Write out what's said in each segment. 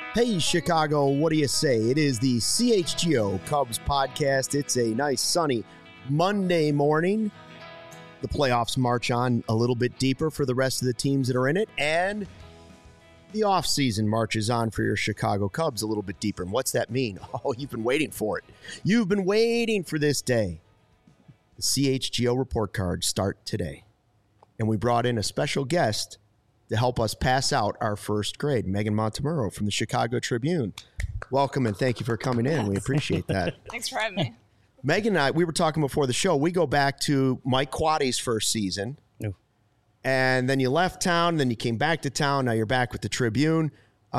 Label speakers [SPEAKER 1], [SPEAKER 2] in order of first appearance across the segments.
[SPEAKER 1] Hey, Chicago, what do you say? It is the CHGO Cubs podcast. It's a nice sunny Monday morning. The playoffs march on a little bit deeper for the rest of the teams that are in it, and the offseason marches on for your Chicago Cubs a little bit deeper. And what's that mean? Oh, you've been waiting for it. You've been waiting for this day. The CHGO report cards start today. And we brought in a special guest to help us pass out our first grade, Megan Montemurro from the Chicago Tribune. Welcome and thank you for coming in. We appreciate that.
[SPEAKER 2] Thanks for having me.
[SPEAKER 1] Megan and I, we were talking before the show. We go back to Mike Quaddy's first season.
[SPEAKER 3] No.
[SPEAKER 1] And then you left town, then you came back to town. Now you're back with the Tribune.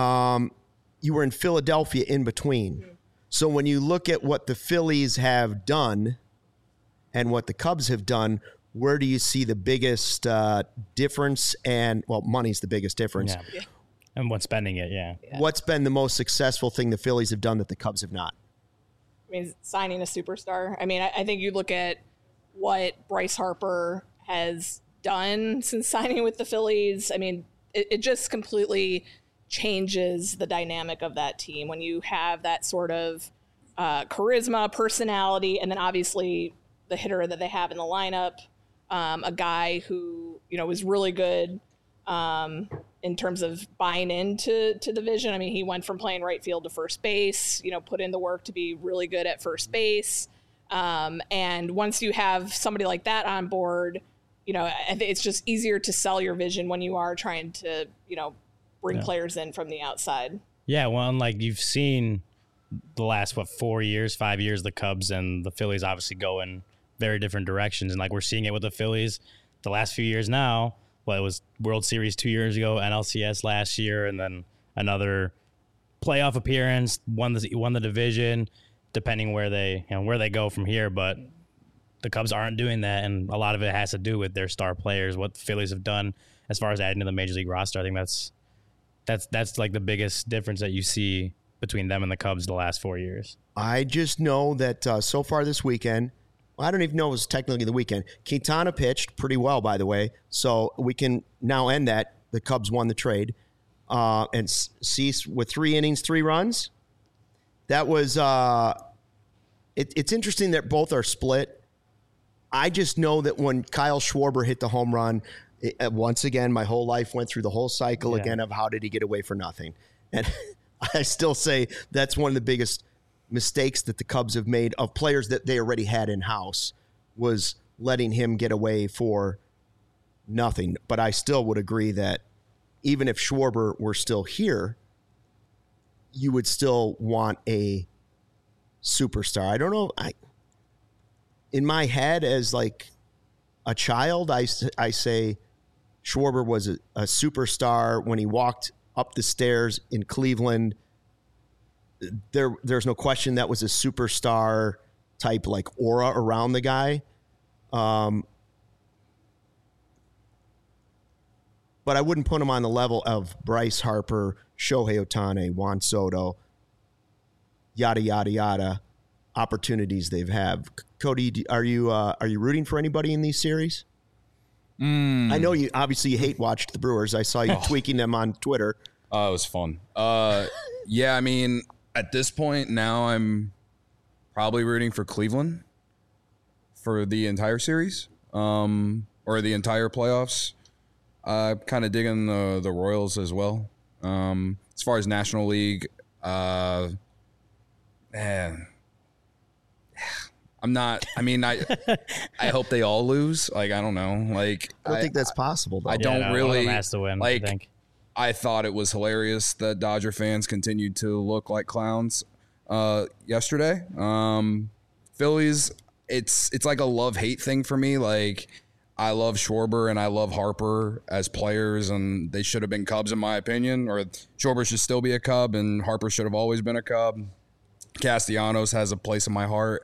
[SPEAKER 1] You were in Philadelphia in between. Mm-hmm. So when you look at what the Phillies have done and what the Cubs have done, where do you see the biggest difference? And, well, money's the biggest difference.
[SPEAKER 3] Yeah. And what's spending it, yeah.
[SPEAKER 1] What's been the most successful thing the Phillies have done that the Cubs have not?
[SPEAKER 2] I mean, signing a superstar. I mean, I think you look at what Bryce Harper has done since signing with the Phillies. I mean, it just completely changes the dynamic of that team when you have that sort of charisma, personality, and then obviously the hitter that they have in the lineup. A guy who, was really good in terms of buying into the vision. I mean, he went from playing right field to first base, put in the work to be really good at first base. And once you have somebody like that on board, I think it's just easier to sell your vision when you are trying to, bring players in from the outside.
[SPEAKER 3] Yeah, well, like you've seen the last, 5 years, the Cubs and the Phillies obviously go in very different directions. And like we're seeing it with the Phillies the last few years now. Well, it was World Series 2 years ago, NLCS last year, and then another playoff appearance, won the division, depending where they go from here. But the Cubs aren't doing that, and a lot of it has to do with their star players, what the Phillies have done as far as adding to the Major League roster. I think that's like the biggest difference that you see between them and the Cubs the last 4 years. I
[SPEAKER 1] just know that so far this weekend, I don't even know if it was technically the weekend. Quintana pitched pretty well, by the way. So we can now end that. The Cubs won the trade. And Cease with 3 innings, 3 runs. That was it's interesting that both are split. I just know that when Kyle Schwarber hit the home run, once again, my whole life went through the whole cycle again of how did he get away for nothing. And I still say that's one of the biggest mistakes that the Cubs have made of players that they already had in-house was letting him get away for nothing. But I still would agree that even if Schwarber were still here, you would still want a superstar. I don't know. In my head as like a child, I say Schwarber was a superstar when he walked up the stairs in Cleveland. There's no question that was a superstar type like aura around the guy. But I wouldn't put him on the level of Bryce Harper, Shohei Ohtani, Juan Soto, yada, yada, yada, opportunities they've had. Cody, are you rooting for anybody in these series? I know you obviously watched the Brewers. I saw you tweaking them on Twitter.
[SPEAKER 4] It was fun. Yeah, I mean, at this point now I'm probably rooting for Cleveland for the entire series or the entire playoffs. Kind of digging the Royals as well. As far as National League, man, I'm not. I mean, I hope they all lose. Like, I don't know. Like,
[SPEAKER 1] I don't think that's possible, though.
[SPEAKER 4] I don't really.
[SPEAKER 3] One of them has to win,
[SPEAKER 4] like,
[SPEAKER 3] I think.
[SPEAKER 4] I thought it was hilarious that Dodger fans continued to look like clowns yesterday. Phillies, it's like a love-hate thing for me. Like, I love Schwarber and I love Harper as players, and they should have been Cubs in my opinion. Or Schwarber should still be a Cub, and Harper should have always been a Cub. Castellanos has a place in my heart.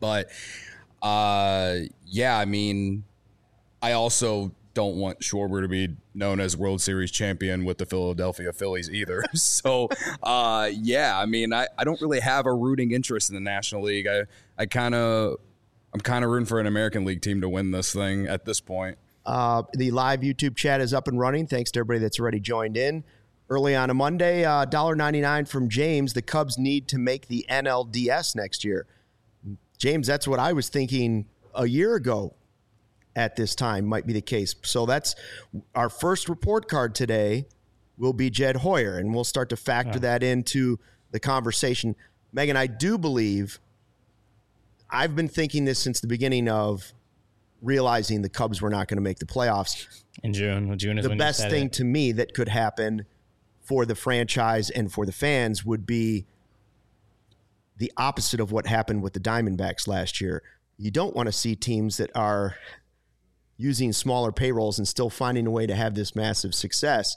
[SPEAKER 4] Yeah, I mean, I also don't want Schwarber to be known as World Series champion with the Philadelphia Phillies either. So, yeah, I mean, I don't really have a rooting interest in the National League. I'm kind of rooting for an American League team to win this thing at this point.
[SPEAKER 1] The live YouTube chat is up and running. Thanks to everybody that's already joined in. Early on a Monday, $1.99 from James. The Cubs need to make the NLDS next year. James, that's what I was thinking a year ago at this time might be the case. So that's our first report card today will be Jed Hoyer, and we'll start to factor that into the conversation. Megan, I do believe I've been thinking this since the beginning of realizing the Cubs were not going to make the playoffs.
[SPEAKER 3] In June. June is
[SPEAKER 1] the
[SPEAKER 3] when
[SPEAKER 1] best
[SPEAKER 3] you said
[SPEAKER 1] thing
[SPEAKER 3] it.
[SPEAKER 1] to me that could happen for the franchise and for the fans would be the opposite of what happened with the Diamondbacks last year. You don't want to see teams that are using smaller payrolls and still finding a way to have this massive success.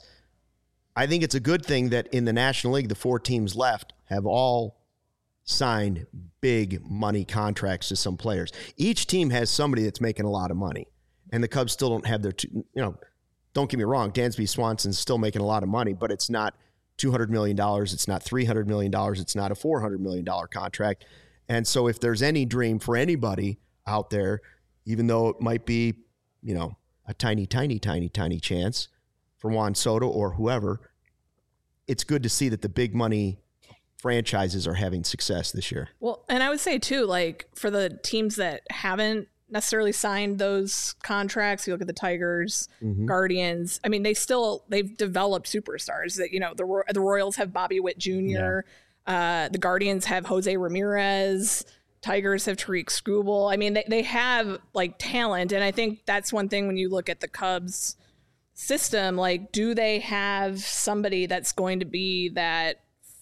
[SPEAKER 1] I think it's a good thing that in the National League, the 4 teams left have all signed big money contracts to some players. Each team has somebody that's making a lot of money, and the Cubs still don't have their, don't get me wrong, Dansby Swanson's still making a lot of money, but it's not $200 million. It's not $300 million. It's not a $400 million contract. And so if there's any dream for anybody out there, even though it might be, a tiny chance for Juan Soto or whoever, it's good to see that the big money franchises are having success this year.
[SPEAKER 2] Well, and I would say too, like for the teams that haven't necessarily signed those contracts, you look at the Tigers, Guardians. I mean, they've developed superstars. That the Royals have Bobby Witt Jr. The Guardians have Jose Ramirez. Tigers have Tariq Skubal. I mean, they have like talent, and I think that's one thing when you look at the Cubs system. Like, do they have somebody that's going to be that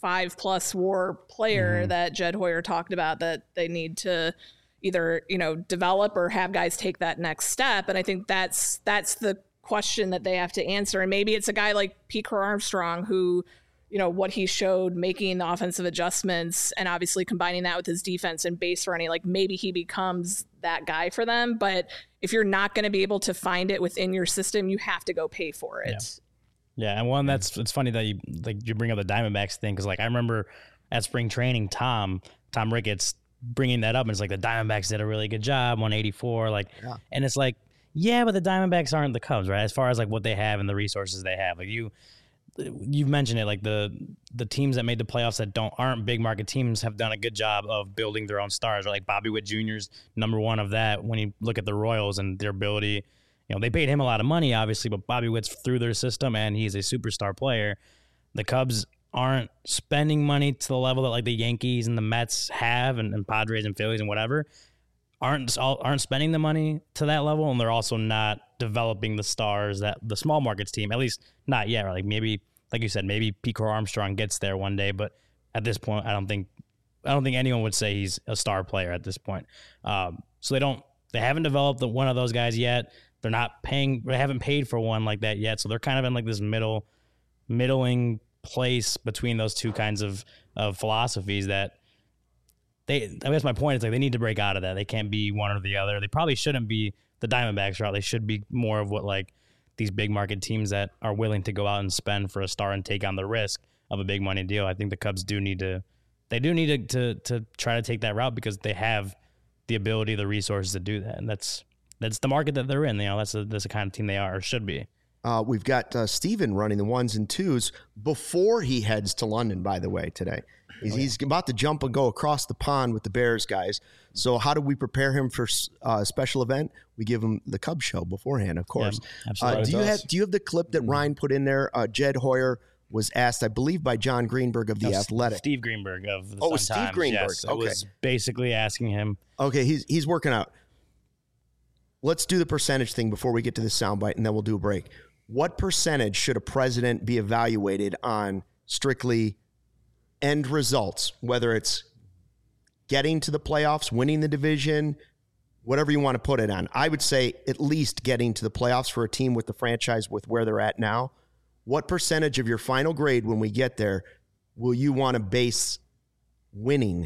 [SPEAKER 2] 5+ WAR player that Jed Hoyer talked about that they need to either, develop or have guys take that next step? And I think that's the question that they have to answer. And maybe it's a guy like Pete Armstrong who, what he showed making the offensive adjustments and obviously combining that with his defense and base running, like maybe he becomes that guy for them. But if you're not going to be able to find it within your system, you have to go pay for it.
[SPEAKER 3] Yeah, and it's funny that you bring up the Diamondbacks thing, because I remember at spring training, Tom Ricketts bringing that up, and it's like the Diamondbacks did a really good job, 184, and it's like, yeah, but the Diamondbacks aren't the Cubs, right? As far as like what they have and the resources they have, like you've mentioned it, like the teams that made the playoffs that aren't big market teams have done a good job of building their own stars. Like Bobby Witt Jr.'s number one of that. When you look at the Royals and their ability. They paid him a lot of money, obviously, but Bobby Witt's through their system, and he's a superstar player. The Cubs aren't spending money to the level that like the Yankees and the Mets have, and Padres and Phillies and whatever, aren't spending the money to that level, and they're also not developing the stars that the small markets team, at least not yet. Right? Like maybe, like you said, maybe Pico Armstrong gets there one day, but at this point, I don't think anyone would say he's a star player at this point. So they haven't developed one of those guys yet. They haven't paid for one like that yet. So they're kind of in like this middling place between those two kinds of philosophies that I guess my point is like they need to break out of that. They can't be one or the other. They probably shouldn't be the Diamondbacks route. They should be more of what like these big market teams that are willing to go out and spend for a star and take on the risk of a big money deal. I think the Cubs do need to try to take that route because they have the ability, the resources to do that. And that's the market that they're in. That's the kind of team they are or should be.
[SPEAKER 1] We've got Steven running the 1s and 2s before he heads to London, by the way, today. He's about to jump and go across the pond with the Bears guys. So how do we prepare him for a special event? We give him the Cubs show beforehand, of course.
[SPEAKER 3] Yeah, absolutely.
[SPEAKER 1] Do you have the clip that Ryan put in there? Jed Hoyer was asked, I believe, by John Greenberg of The Athletic.
[SPEAKER 3] Steve Greenberg of the
[SPEAKER 1] Sun
[SPEAKER 3] Sun Times.
[SPEAKER 1] Steve Greenberg.
[SPEAKER 3] Yes,
[SPEAKER 1] okay.
[SPEAKER 3] It was basically asking him.
[SPEAKER 1] Okay, he's working out. Let's do the percentage thing before we get to the soundbite, and then we'll do a break. What percentage should a president be evaluated on strictly end results, whether it's getting to the playoffs, winning the division, whatever you want to put it on? I would say at least getting to the playoffs for a team with the franchise with where they're at now. What percentage of your final grade when we get there will you want to base winning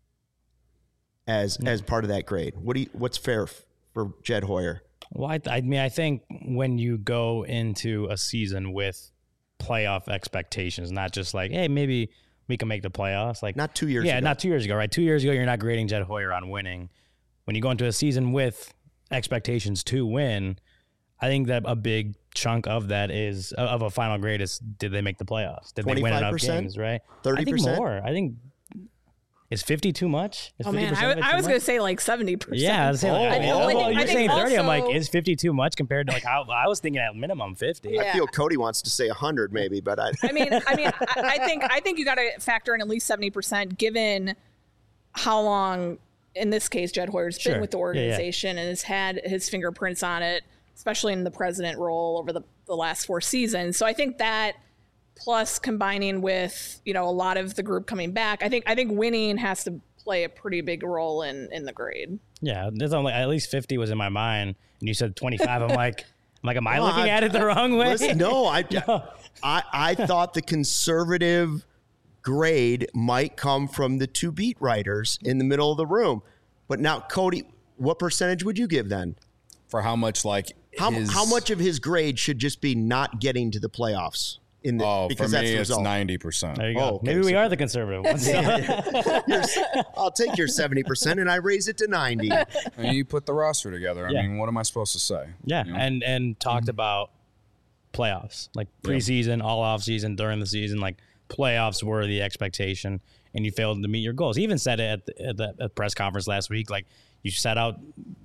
[SPEAKER 1] as part of that grade? What's fair for Jed Hoyer?
[SPEAKER 3] Well, I think when you go into a season with playoff expectations, not just like, hey, maybe we can make the playoffs. Like
[SPEAKER 1] not 2 years ago.
[SPEAKER 3] Yeah, not 2 years ago, right? 2 years ago, you're not grading Jed Hoyer on winning. When you go into a season with expectations to win, I think that a big chunk of that is of a final grade is, did they make the playoffs? Did they win enough games? Right?
[SPEAKER 1] 30%?
[SPEAKER 3] I think more. I think. Is 50 too much? Is
[SPEAKER 2] Oh man, I was going to say like 70%.
[SPEAKER 3] Yeah, I was saying, you're saying 30. I'm like, is 50 too much compared to like how I was thinking at minimum 50.
[SPEAKER 2] Yeah.
[SPEAKER 1] I feel Cody wants to say 100 maybe, but I
[SPEAKER 2] think you got to factor in at least 70% given how long, in this case, Jed Hoyer's been with the organization and has had his fingerprints on it, especially in the president role over the last 4 seasons. So I think that, plus combining with, a lot of the group coming back, I think winning has to play a pretty big role in the grade.
[SPEAKER 3] Yeah, there's only at least 50 was in my mind, and you said 25. I'm like, am I looking at it the wrong way?
[SPEAKER 1] Listen, no, I thought the conservative grade might come from the 2 beat writers in the middle of the room, but now Cody, what percentage would you give then?
[SPEAKER 4] For how much
[SPEAKER 1] how much of his grade should just be not getting to the playoffs?
[SPEAKER 4] Because for me, it's 90%.
[SPEAKER 3] There you go. Okay, maybe we are the conservative ones.
[SPEAKER 1] I'll take your 70% and I raise it to 90.
[SPEAKER 4] And you put the roster together. I mean, what am I supposed to say?
[SPEAKER 3] Yeah, and talked about playoffs, like preseason, all off season, during the season, like playoffs were the expectation, and you failed to meet your goals. He even said it at the press conference last week, like you set out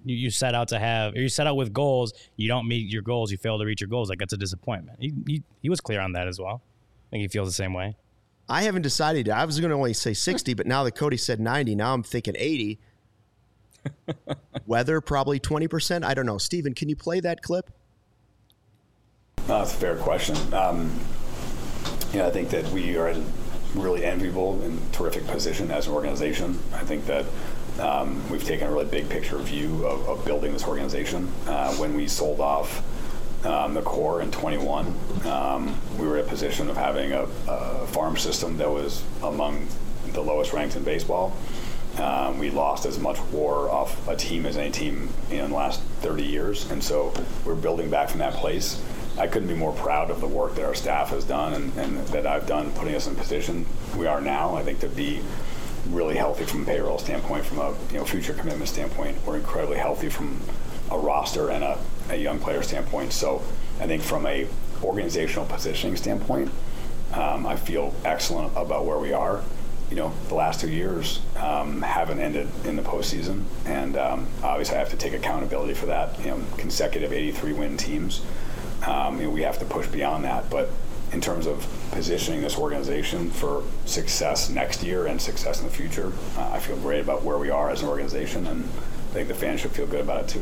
[SPEAKER 3] with goals, you don't meet your goals, you fail to reach your goals. Like that's a disappointment. He was clear on that as well. I think he feels the same way.
[SPEAKER 1] I haven't decided. I was going to only say 60, but now that Cody said 90, now I'm thinking 80. Weather, probably 20%. I don't know. Steven, can you play that clip?
[SPEAKER 5] That's a fair question. I think that we are in a really enviable and terrific position as an organization. I think that we've taken a really big picture view of building this organization. When we sold off the core in 21, we were in a position of having a farm system that was among the lowest ranked in baseball. We lost as much WAR off a team as any team in the last 30 years, and so we're building back from that place. I couldn't be more proud of the work that our staff has done and that I've done, putting us in the position we are now. I think to be really healthy from a payroll standpoint, from a future commitment standpoint. We're incredibly healthy from a roster and a young player standpoint. So I think from a organizational positioning standpoint, I feel excellent about where we are. The last 2 years haven't ended in the postseason, and obviously I have to take accountability for that. Consecutive 83-win teams. We have to push beyond that, but in terms of positioning this organization for success next year and success in the future, I feel great about where we are as an organization, and I think the fans should feel good about it too.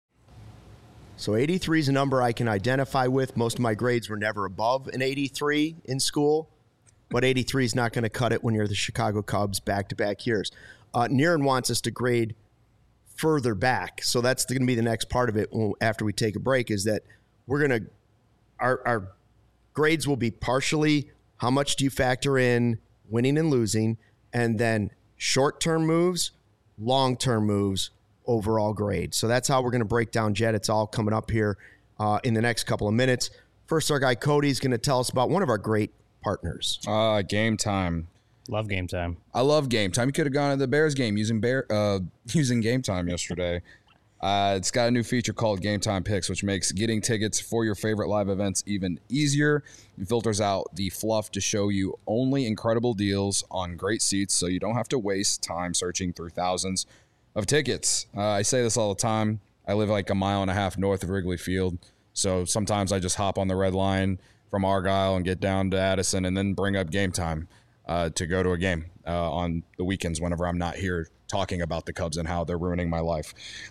[SPEAKER 1] So 83 is a number I can identify with. Most of my grades were never above an 83 in school, but 83 is not going to cut it when you're the Chicago Cubs back-to-back years. Niren wants us to grade further back, so that's going to be the next part of it after we take a break, is that we're going to our grades will be partially how much do you factor in winning and losing, and then short-term moves, long-term moves, overall grade. So that's how we're going to break down Jed. It's all coming up here in the next couple of minutes. First, our guy Cody is going to tell us about one of our great partners.
[SPEAKER 4] Game Time.
[SPEAKER 3] Love Game Time.
[SPEAKER 4] I love Game Time. You could have gone to the Bears game using Game Time yesterday. It's got a new feature called Game Time Picks, which makes getting tickets for your favorite live events even easier. It filters out the fluff to show you only incredible deals on great seats, so you don't have to waste time searching through thousands of tickets. I say this all the time. I live like a mile and a half north of Wrigley Field, so sometimes I just hop on the red line from Argyle and get down to Addison and then bring up Game Time to go to a game on the weekends whenever I'm not here talking about the Cubs and how they're ruining my life.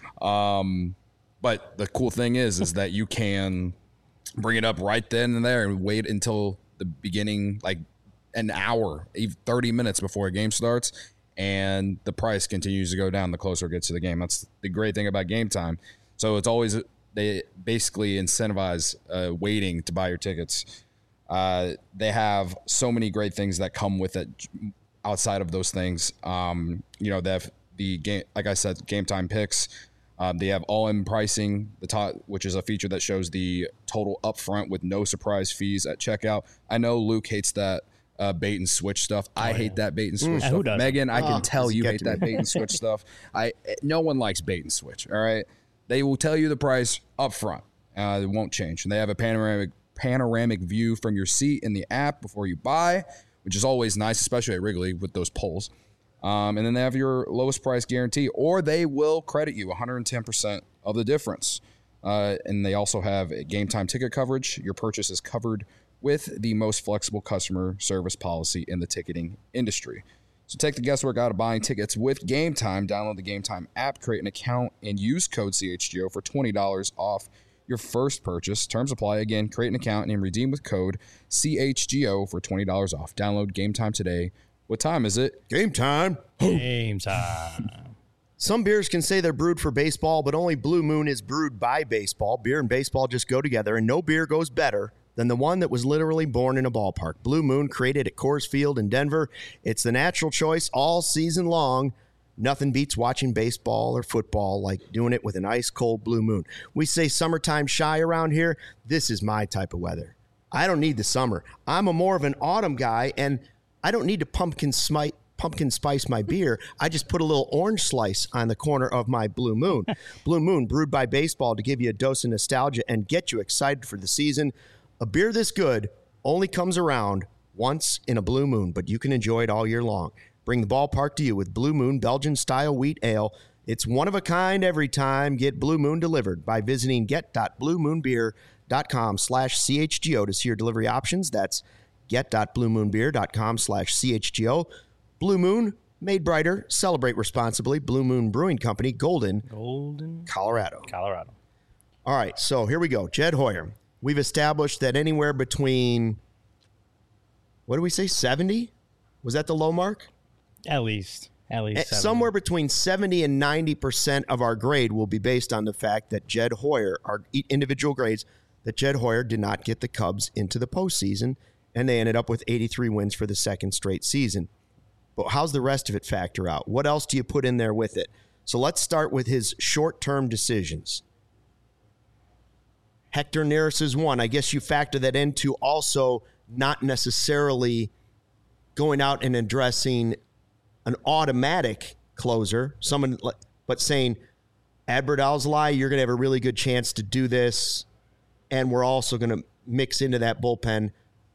[SPEAKER 4] But the cool thing is that you can bring it up right then and there and wait until the beginning, like an hour, 30 minutes before a game starts, and the price continues to go down the closer it gets to the game. That's the great thing about Game Time. So it's always, they basically incentivize waiting to buy your tickets. They have so many great things that come with it outside of those things. They have the game, like I said, Game Time Picks. They have all-in pricing, which is a feature that shows the total upfront with no surprise fees at checkout. I know Luke hates that bait and switch stuff. I hate that bait and switch stuff. Megan, I can tell you hate that bait and switch stuff. No one likes bait and switch. All right, they will tell you the price up front, It won't change. And they have a panoramic view from your seat in the app before you buy, which is always nice, especially at Wrigley with those polls. And then they have your lowest price guarantee, or they will credit you 110% of the difference. And they also have a game time ticket coverage. Your purchase is covered with the most flexible customer service policy in the ticketing industry. So take the guesswork out of buying tickets with Game Time. Download the Game Time app, create an account, and use code CHGO for $20 off your first purchase. Terms apply. Again, create an account and redeem with code CHGO for $20 off. Download Game Time today. What time is it?
[SPEAKER 1] Game time.
[SPEAKER 3] Game time.
[SPEAKER 1] Some beers can say they're brewed for baseball, but only Blue Moon is brewed by baseball. Beer and baseball just go together, and no beer goes better than the one that was literally born in a ballpark. Blue Moon, created at Coors Field in Denver. It's the natural choice all season long. Nothing beats watching baseball or football like doing it with an ice-cold Blue Moon. We say summertime shy around here. This is my type of weather. I don't need the summer. I'm more of an autumn guy, and I don't need to pumpkin spice my beer. I just put a little orange slice on the corner of my Blue Moon. Blue Moon, brewed by baseball to give you a dose of nostalgia and get you excited for the season. A beer this good only comes around once in a Blue Moon, but you can enjoy it all year long. Bring the ballpark to you with Blue Moon Belgian-style wheat ale. It's one of a kind every time. Get Blue Moon delivered by visiting get.bluemoonbeer.com/CHGO to see your delivery options. That's get.bluemoonbeer.com/CHGO. Blue Moon, made brighter. Celebrate responsibly. Blue Moon Brewing Company, Golden, Colorado. All right, so here we go. Jed Hoyer. We've established that anywhere between, what do we say, 70? Was that the low mark?
[SPEAKER 3] At least 70.
[SPEAKER 1] Somewhere between 70 and 90% of our grade will be based on the fact that Jed Hoyer, our individual grades, that Jed Hoyer did not get the Cubs into the postseason, and they ended up with 83 wins for the second straight season. But how's the rest of it factor out? What else do you put in there with it? So let's start with his short-term decisions. Hector Neris is one. I guess you factor that into also not necessarily going out and addressing an automatic closer, but saying, Adbert Alzolay, you're going to have a really good chance to do this, and we're also going to mix into that bullpen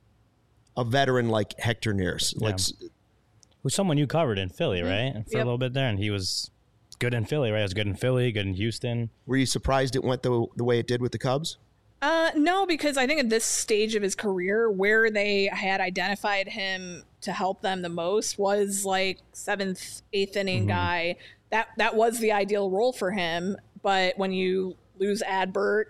[SPEAKER 1] a veteran like Hector Neris.
[SPEAKER 3] Yeah. Who's someone you covered in Philly, right? For a little bit there, and he was good in Philly, right? He was good in Philly, good in Houston.
[SPEAKER 1] Were you surprised it went the way it did with the Cubs?
[SPEAKER 2] No, because I think at this stage of his career, where they had identified him to help them the most was like 7th, 8th inning guy. That was the ideal role for him. But when you lose Adbert,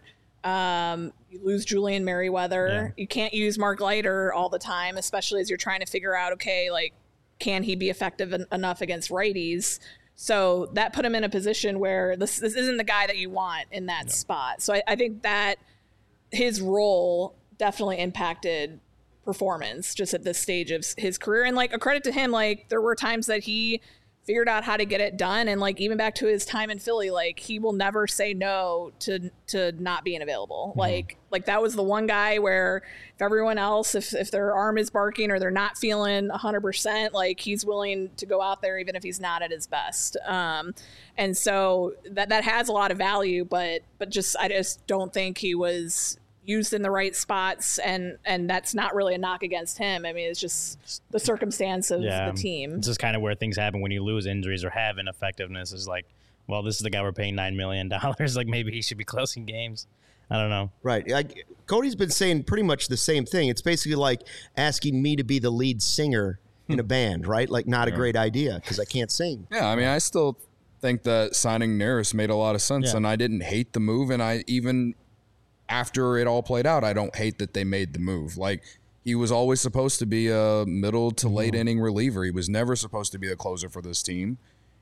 [SPEAKER 2] you lose Julian Merriweather, you can't use Mark Leiter all the time, especially as you're trying to figure out, okay, like, can he be effective enough against righties? So that put him in a position where this isn't the guy that you want in that spot. So I think that his role definitely impacted performance just at this stage of his career. And like, a credit to him, like, there were times that he figured out how to get it done. And like, even back to his time in Philly, like, he will never say no to not being available. Like that was the one guy where if everyone else, if their arm is barking or they're not feeling 100%, like, he's willing to go out there even if he's not at his best. And so that has a lot of value, but I just don't think he was used in the right spots, and that's not really a knock against him. I mean, it's just the circumstance of the team.
[SPEAKER 3] It's just kind of where things happen when you lose injuries or have ineffectiveness. Is like, well, this is the guy we're paying $9 million. Like, maybe he should be closing games. I don't know.
[SPEAKER 1] Right. Cody's been saying pretty much the same thing. It's basically like asking me to be the lead singer in a band, right? Like, not a great idea because I can't sing.
[SPEAKER 4] Yeah, I mean, I still think that signing Neris made a lot of sense, and I didn't hate the move, and I even after it all played out, I don't hate that they made the move. Like, he was always supposed to be a middle to late inning reliever. He was never supposed to be the closer for this team.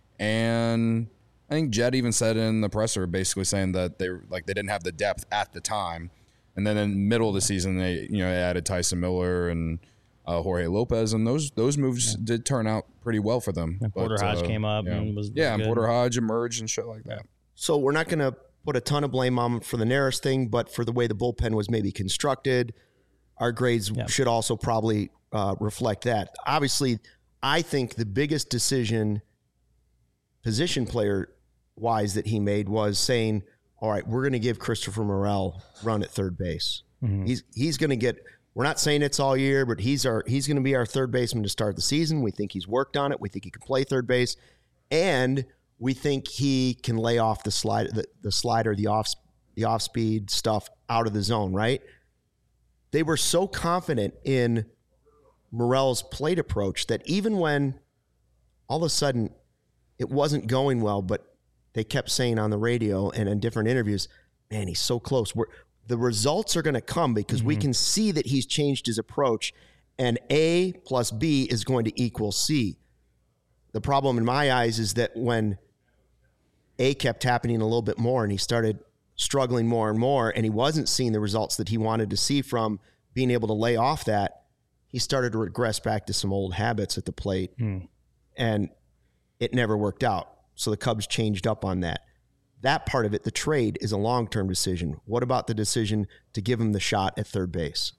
[SPEAKER 4] And I think Jed even said in the presser, basically saying that they didn't have the depth at the time. And then in the middle of the season, they added Tyson Miller and Jorge Lopez, and those moves did turn out pretty well for them.
[SPEAKER 3] And Porter Hodge came up and was good.
[SPEAKER 4] And Porter Hodge emerged and shit like that.
[SPEAKER 1] So we're not going to put a ton of blame on him for the Neris thing, but for the way the bullpen was maybe constructed, our grades should also probably reflect that. Obviously, I think the biggest decision, position player wise, that he made was saying, all right, we're going to give Christopher Morel run at third base. He's going to get, we're not saying it's all year, but he's going to be our third baseman to start the season. We think he's worked on it. We think he can play third base. And we think he can lay off the slider, the off speed stuff out of the zone, right? They were so confident in Morel's plate approach that even when all of a sudden it wasn't going well, but they kept saying on the radio and in different interviews, man, he's so close. The results are going to come because we can see that he's changed his approach, and A plus B is going to equal C. The problem in my eyes is that when A kept happening a little bit more and he started struggling more and more, and he wasn't seeing the results that he wanted to see from being able to lay off that, he started to regress back to some old habits at the plate, and it never worked out. So the Cubs changed up on that. That part of it, the trade, is a long-term decision. What about the decision to give him the shot at third base?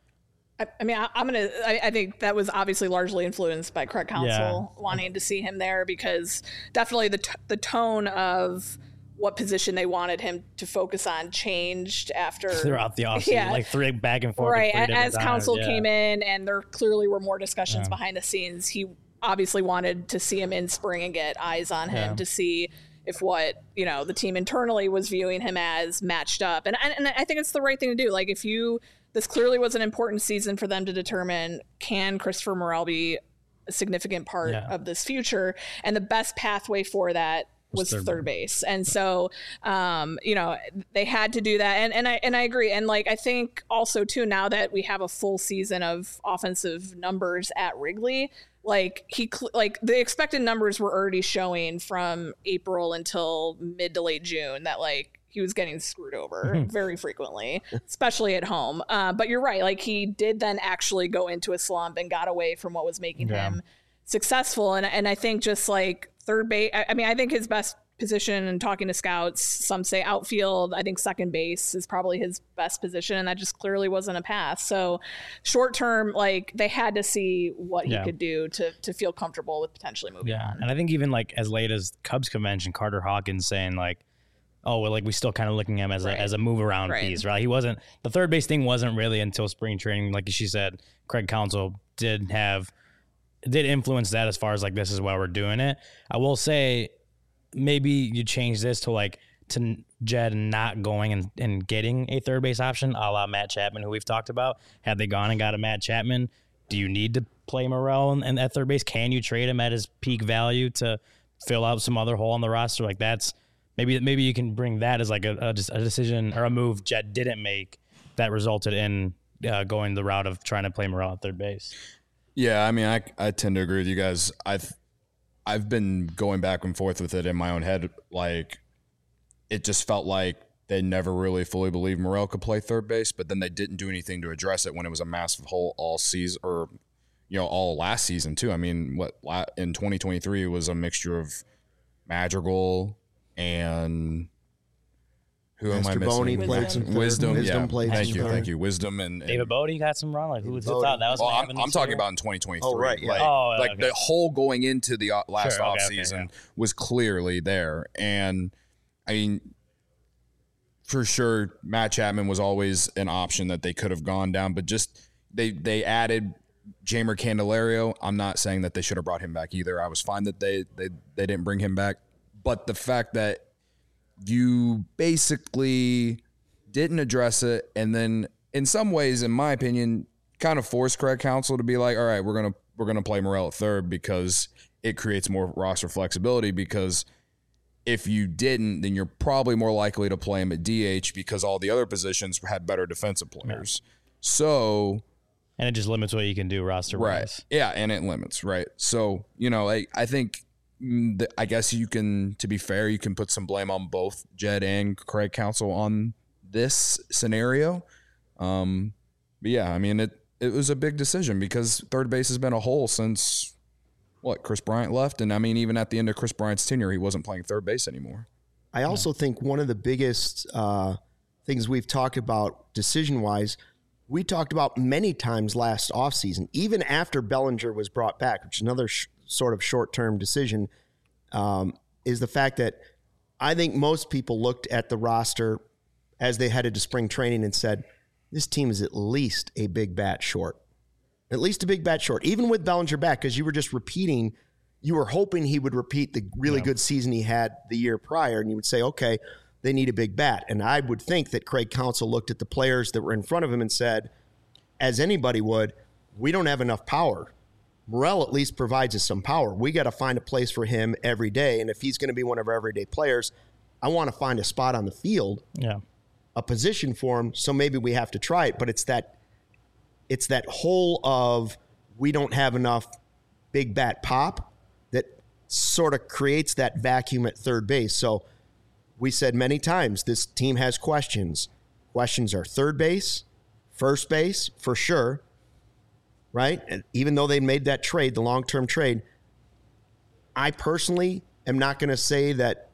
[SPEAKER 2] I think that was obviously largely influenced by Craig Counsell wanting to see him there, because definitely the tone of what position they wanted him to focus on changed after
[SPEAKER 3] throughout the offseason, like three back and forth.
[SPEAKER 2] Right. As Counsell came in, and there clearly were more discussions behind the scenes. He obviously wanted to see him in spring and get eyes on him to see if what, the team internally was viewing him as matched up. And I think it's the right thing to do. Like, this clearly was an important season for them to determine, can Christopher Morel be a significant part of this future? And the best pathway for that was third base. And so, they had to do that. And I agree. And I think also too, now that we have a full season of offensive numbers at Wrigley, the expected numbers were already showing from April until mid to late June that he was getting screwed over very frequently, especially at home. But you're right. He did then actually go into a slump and got away from what was making him successful. And I think just third base, I think his best position, and talking to scouts, some say outfield. I think second base is probably his best position, and that just clearly wasn't a path. So short term, they had to see what he could do to feel comfortable with potentially moving on.
[SPEAKER 3] And I think even as late as Cubs convention, Carter Hawkins saying we still kind of looking at him as a move around piece, right? He wasn't, the third base thing wasn't really until spring training. Like she said, Craig Counsell did influence that as far as this is why we're doing it. I will say, maybe you change this to Jed not going and getting a third base option, a la Matt Chapman, who we've talked about. Had they gone and got a Matt Chapman, do you need to play Morel and at third base? Can you trade him at his peak value to fill out some other hole on the roster? That's maybe you can bring that as a decision or a move Jed didn't make that resulted in going the route of trying to play Morel at third base.
[SPEAKER 4] Yeah, I tend to agree with you guys. I've been going back and forth with it in my own head. It just felt like they never really fully believed Morel could play third base, but then they didn't do anything to address it when it was a massive hole all season, or all last season too. In 2023 it was a mixture of Madrigal and who am I missing? Wisdom. Thank you. Wisdom and
[SPEAKER 3] David Bodie got some run. Who thought that was?
[SPEAKER 4] I'm talking about in 2023.
[SPEAKER 1] Oh, right. Yeah.
[SPEAKER 4] The hole going into the last offseason was clearly there, and for sure, Matt Chapman was always an option that they could have gone down, but just they added Jeimer Candelario. I'm not saying that they should have brought him back either. I was fine that they didn't bring him back, but the fact that you basically didn't address it, and then in some ways, in my opinion, kind of forced Craig Counsell to be like, all right, we're gonna play Morel at third because it creates more roster flexibility. Because if you didn't, then you're probably more likely to play him at DH because all the other positions had better defensive players. Yeah. So,
[SPEAKER 3] and it just limits what you can do roster wise.
[SPEAKER 4] Right. Yeah, and it limits, right? So, I think, I guess you can, to be fair, you can put some blame on both Jed and Craig Counsell on this scenario. But yeah, it was a big decision because third base has been a hole since Chris Bryant left. And even at the end of Chris Bryant's tenure, he wasn't playing third base anymore.
[SPEAKER 1] I also think one of the biggest things we've talked about decision-wise, we talked about many times last offseason, even after Bellinger was brought back, which is another sort of short-term decision, is the fact that I think most people looked at the roster as they headed to spring training and said, this team is at least a big bat short. At least a big bat short, even with Bellinger back, because you were just repeating, you were hoping he would repeat the really good season he had the year prior, and you would say, okay, they need a big bat. And I would think that Craig Counsell looked at the players that were in front of him and said, as anybody would, we don't have enough power. Morel at least provides us some power. We got to find a place for him every day, and if he's going to be one of our everyday players, I want to find a spot on the field, a position for him, so maybe we have to try it. But it's that whole of we don't have enough big bat pop that sort of creates that vacuum at third base. So we said many times this team has questions. Questions are third base, first base, for sure, right? And even though they made that trade, the long-term trade, I personally am not going to say that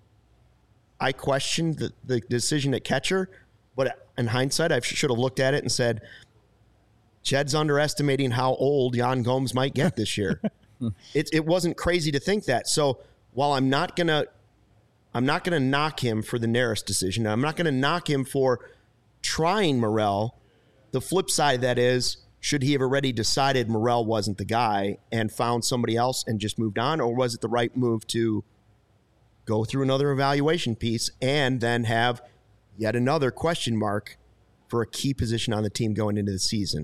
[SPEAKER 1] I questioned the decision at catcher, but in hindsight, I should have looked at it and said, Jed's underestimating how old Yan Gomes might get this year. It wasn't crazy to think that. So while I'm not gonna knock him for the Neris decision, I'm not gonna knock him for trying Morel. The flip side of that is, should he have already decided Morel wasn't the guy and found somebody else and just moved on, or was it the right move to go through another evaluation piece and then have yet another question mark for a key position on the team going into the season?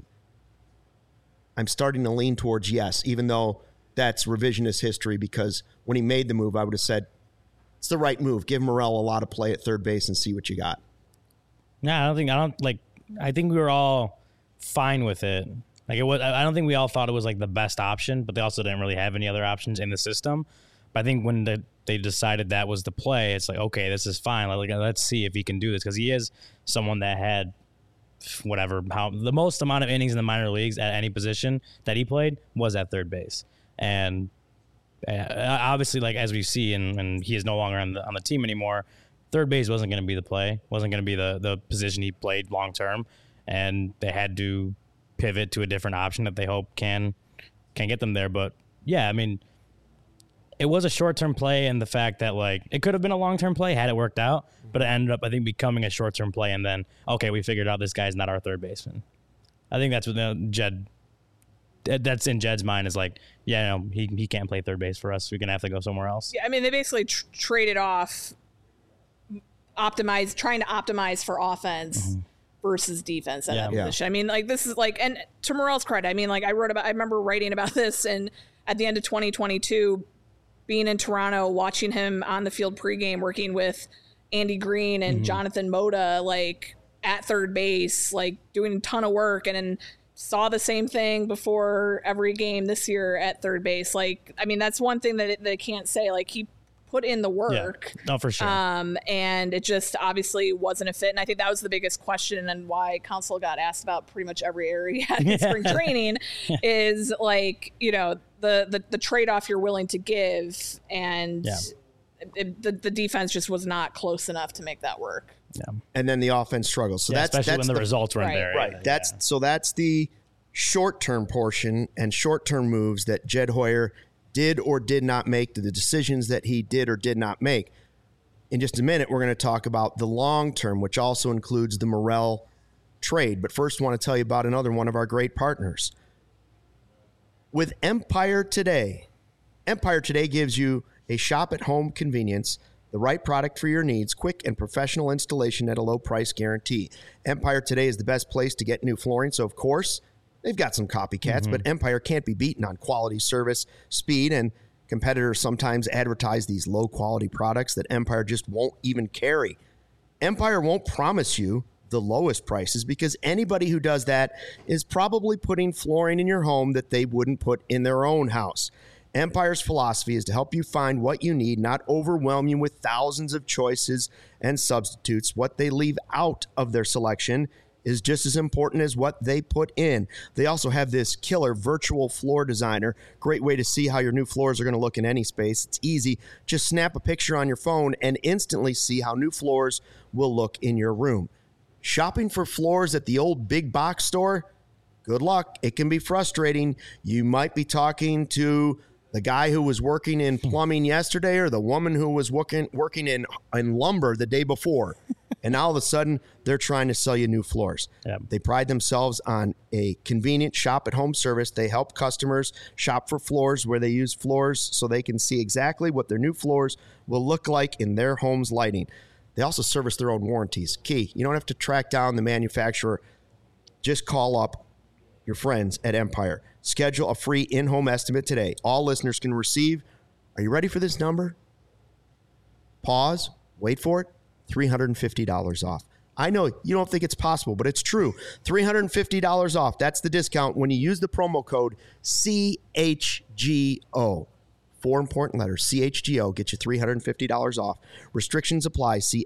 [SPEAKER 1] I'm starting to lean towards yes, even though that's revisionist history, because when he made the move, I would have said, it's the right move. Give Morel a lot of play at third base and see what you got.
[SPEAKER 3] No, I think we were all fine with it. Like, I don't think we all thought it was like the best option, but they also didn't really have any other options in the system. But I think when they decided that was the play, it's like, okay, this is fine. Like, let's see if he can do this, because he is someone that had the most amount of innings in the minor leagues at any position that he played was at third base. And obviously, like, as we see, and he is no longer on the team anymore, third base wasn't going to be the play, wasn't going to be the position he played long term, and they had to pivot to a different option that they hope can get them there. But yeah, I mean, it was a short-term play, and the fact that, like, it could have been a long-term play had it worked out, but it ended up, I think, becoming a short-term play, and then, okay, we figured out this guy's not our third baseman. I think that's what Jed, that's in Jed's mind, is like, yeah, no, he can't play third base for us. We're going to have to go somewhere else.
[SPEAKER 2] Yeah, I mean, they basically traded off trying to optimize for offense versus defense at that position. I mean, like, this is like, and to Morel's credit, I mean, like, I remember writing about this, and at the end of 2022, being in Toronto, watching him on the field pregame, working with Andy Green and Jonathan Moda, like, at third base, like, doing a ton of work, and then saw the same thing before every game this year at third base. Like, I mean, that's one thing that they can't say. Like, he put in the work.
[SPEAKER 3] Yeah. No, for sure.
[SPEAKER 2] And it just obviously wasn't a fit. And I think that was the biggest question, and why Counsell got asked about pretty much every area in spring training is, like, you know, the trade-off you're willing to give, and the defense just was not close enough to make that work.
[SPEAKER 1] Yeah. And then the offense struggles. So that's
[SPEAKER 3] especially when the results weren't there.
[SPEAKER 1] Right. That's the short-term portion and short-term moves that Jed Hoyer did or did not make, the decisions that he did or did not make. In just a minute, we're going to talk about the long-term, which also includes the Morel trade. But first, I want to tell you about another one of our great partners. With Empire Today gives you a shop-at-home convenience, the right product for your needs, quick and professional installation at a low price guarantee. Empire Today is the best place to get new flooring, so of course, they've got some copycats, but Empire can't be beaten on quality, service, speed, and competitors sometimes advertise these low-quality products that Empire just won't even carry. Empire won't promise you the lowest prices, because anybody who does that is probably putting flooring in your home that they wouldn't put in their own house. Empire's philosophy is to help you find what you need, not overwhelm you with thousands of choices and substitutes. What they leave out of their selection is just as important as what they put in. They also have this killer virtual floor designer. Great way to see how your new floors are going to look in any space. It's easy. Just snap a picture on your phone and instantly see how new floors will look in your room. Shopping for floors at the old big box store? Good luck. It can be frustrating. You might be talking to the guy who was working in plumbing yesterday or the woman who was working in lumber the day before. And all of a sudden, they're trying to sell you new floors.
[SPEAKER 3] Yep.
[SPEAKER 1] They pride themselves on a convenient shop-at-home service. They help customers shop for floors where they use floors so they can see exactly what their new floors will look like in their home's lighting. They also service their own warranties. Key, you don't have to track down the manufacturer. Just call up your friends at Empire. Schedule a free in-home estimate today. All listeners can receive, are you ready for this number? Pause, wait for it, $350 off. I know you don't think it's possible, but it's true. $350 off. That's the discount when you use the promo code CHGO. 4 important letters, CHGO, get you $350 off. Restrictions apply. See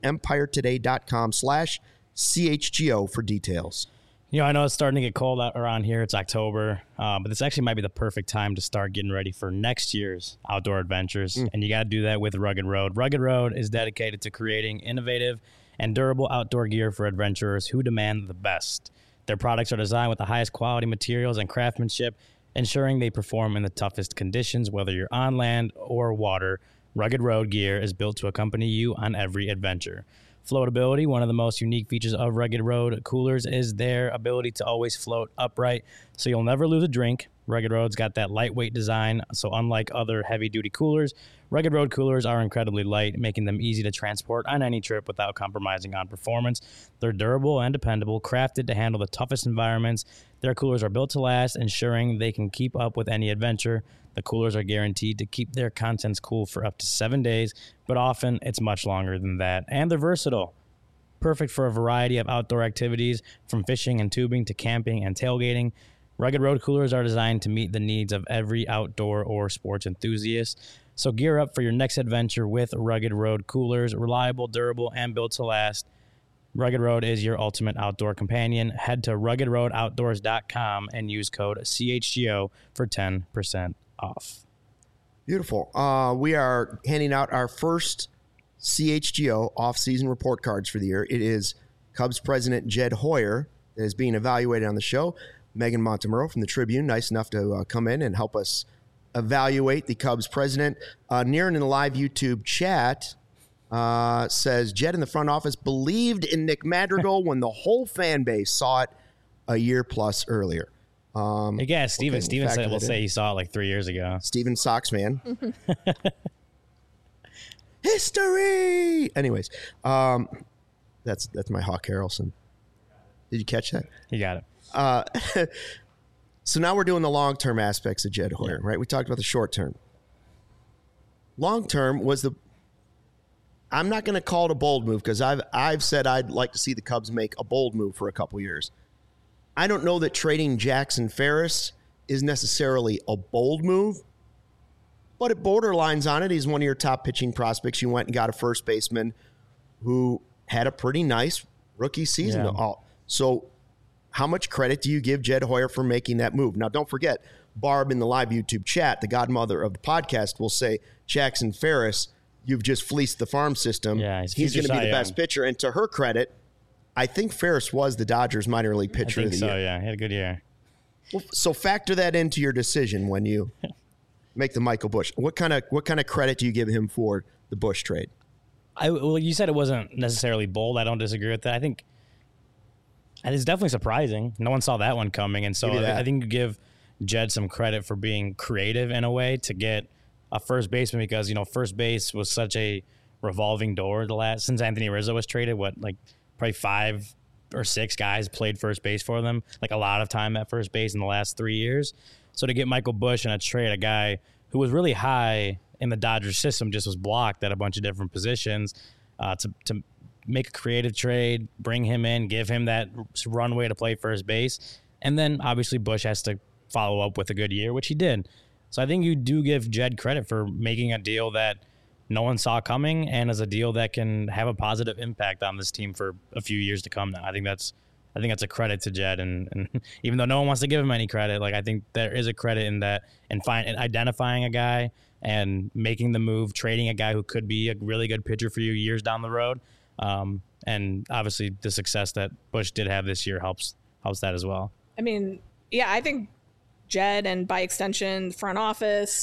[SPEAKER 1] empiretoday.com/CHGO for details.
[SPEAKER 3] You know, I know it's starting to get cold out around here. It's October, but this actually might be the perfect time to start getting ready for next year's outdoor adventures. And you got to do that with Rugged Road. Rugged Road is dedicated to creating innovative and durable outdoor gear for adventurers who demand the best. Their products are designed with the highest quality materials and craftsmanship, ensuring they perform in the toughest conditions, whether you're on land or water. Rugged Road gear is built to accompany you on every adventure. Floatability, one of the most unique features of Rugged Road coolers is their ability to always float upright, so you'll never lose a drink. Rugged Road's got that lightweight design, so unlike other heavy-duty coolers, Rugged Road coolers are incredibly light, making them easy to transport on any trip without compromising on performance. They're durable and dependable, crafted to handle the toughest environments. Their coolers are built to last, ensuring they can keep up with any adventure. The coolers are guaranteed to keep their contents cool for up to 7 days, but often it's much longer than that. And they're versatile, perfect for a variety of outdoor activities, from fishing and tubing to camping and tailgating. Rugged Road coolers are designed to meet the needs of every outdoor or sports enthusiast. So gear up for your next adventure with Rugged Road coolers, reliable, durable, and built to last. Rugged Road is your ultimate outdoor companion. Head to ruggedroadoutdoors.com and use code CHGO for 10% off.
[SPEAKER 1] Beautiful. We are handing out our first CHGO off-season report cards for the year. It is Cubs president Jed Hoyer that is being evaluated on the show. Megan Montemurro from the Tribune, nice enough to come in and help us evaluate the Cubs president. Niren in the live YouTube chat says, Jed in the front office believed in Nick Madrigal when the whole fan base saw it a year plus earlier.
[SPEAKER 3] Yeah, Steven said, we'll say he saw it like 3 years ago.
[SPEAKER 1] Steven Sox man. History. Anyways, that's my Hawk Harrelson. Did you catch that?
[SPEAKER 3] You got it.
[SPEAKER 1] So now we're doing the long-term aspects of Jed Hoyer, right? We talked about the short-term. Long-term was I'm not going to call it a bold move because I've said I'd like to see the Cubs make a bold move for a couple years. I don't know that trading Jackson Ferris is necessarily a bold move, but it borderlines on it. He's one of your top pitching prospects. You went and got a first baseman who had a pretty nice rookie season.
[SPEAKER 3] Yeah.
[SPEAKER 1] So how much credit do you give Jed Hoyer for making that move? Now, don't forget, Barb in the live YouTube chat, the godmother of the podcast, will say, Jackson Ferris, you've just fleeced the farm system.
[SPEAKER 3] Yeah,
[SPEAKER 1] he's going to be the best pitcher. And to her credit, I think Ferris was the Dodgers minor league pitcher of the year.
[SPEAKER 3] Yeah. He had a good year.
[SPEAKER 1] Well, so factor that into your decision when you make the Michael Busch. What kind of credit do you give him for the Busch trade?
[SPEAKER 3] Well, you said it wasn't necessarily bold. I don't disagree with that. I think it's definitely surprising. No one saw that one coming. And so I think you give Jed some credit for being creative in a way to get a first baseman because, first base was such a revolving door since Anthony Rizzo was traded, probably 5 or 6 guys played first base for them, a lot of time at first base in the last 3 years. So to get Michael Busch in a trade, a guy who was really high in the Dodgers system, just was blocked at a bunch of different positions, to make a creative trade, bring him in, give him that runway to play first base. And then obviously Busch has to follow up with a good year, which he did. So I think you do give Jed credit for making a deal that no one saw coming and is a deal that can have a positive impact on this team for a few years to come now. I think that's a credit to Jed, and even though no one wants to give him any credit, I think there is a credit in that and identifying a guy and making the move, trading a guy who could be a really good pitcher for you years down the road. And obviously the success that Busch did have this year helps that as well.
[SPEAKER 2] I mean, yeah, I think Jed and by extension, the front office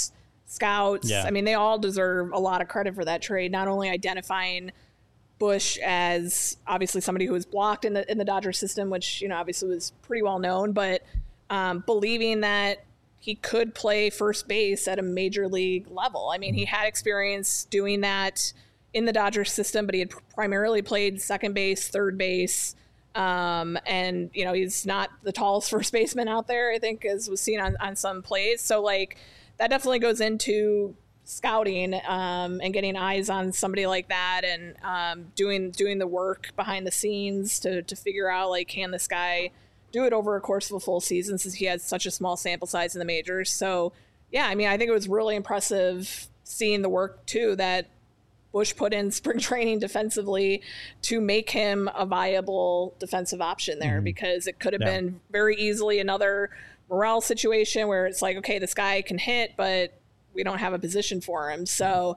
[SPEAKER 2] scouts.
[SPEAKER 3] Yeah.
[SPEAKER 2] I mean, they all deserve a lot of credit for that trade, not only identifying Bush as obviously somebody who was blocked in the Dodger system, which, obviously was pretty well known, but believing that he could play first base at a major league level. I mean, he had experience doing that in the Dodger system, but he had primarily played second base, third base. And, he's not the tallest first baseman out there, I think, as was seen on some plays. So, that definitely goes into scouting and getting eyes on somebody like that and doing the work behind the scenes to figure out, can this guy do it over a course of a full season since he has such a small sample size in the majors. So, yeah, I mean, I think it was really impressive seeing the work, too, that Bush put in spring training defensively to make him a viable defensive option there, because it could have been very easily another morale situation where it's okay, this guy can hit, but we don't have a position for him. So,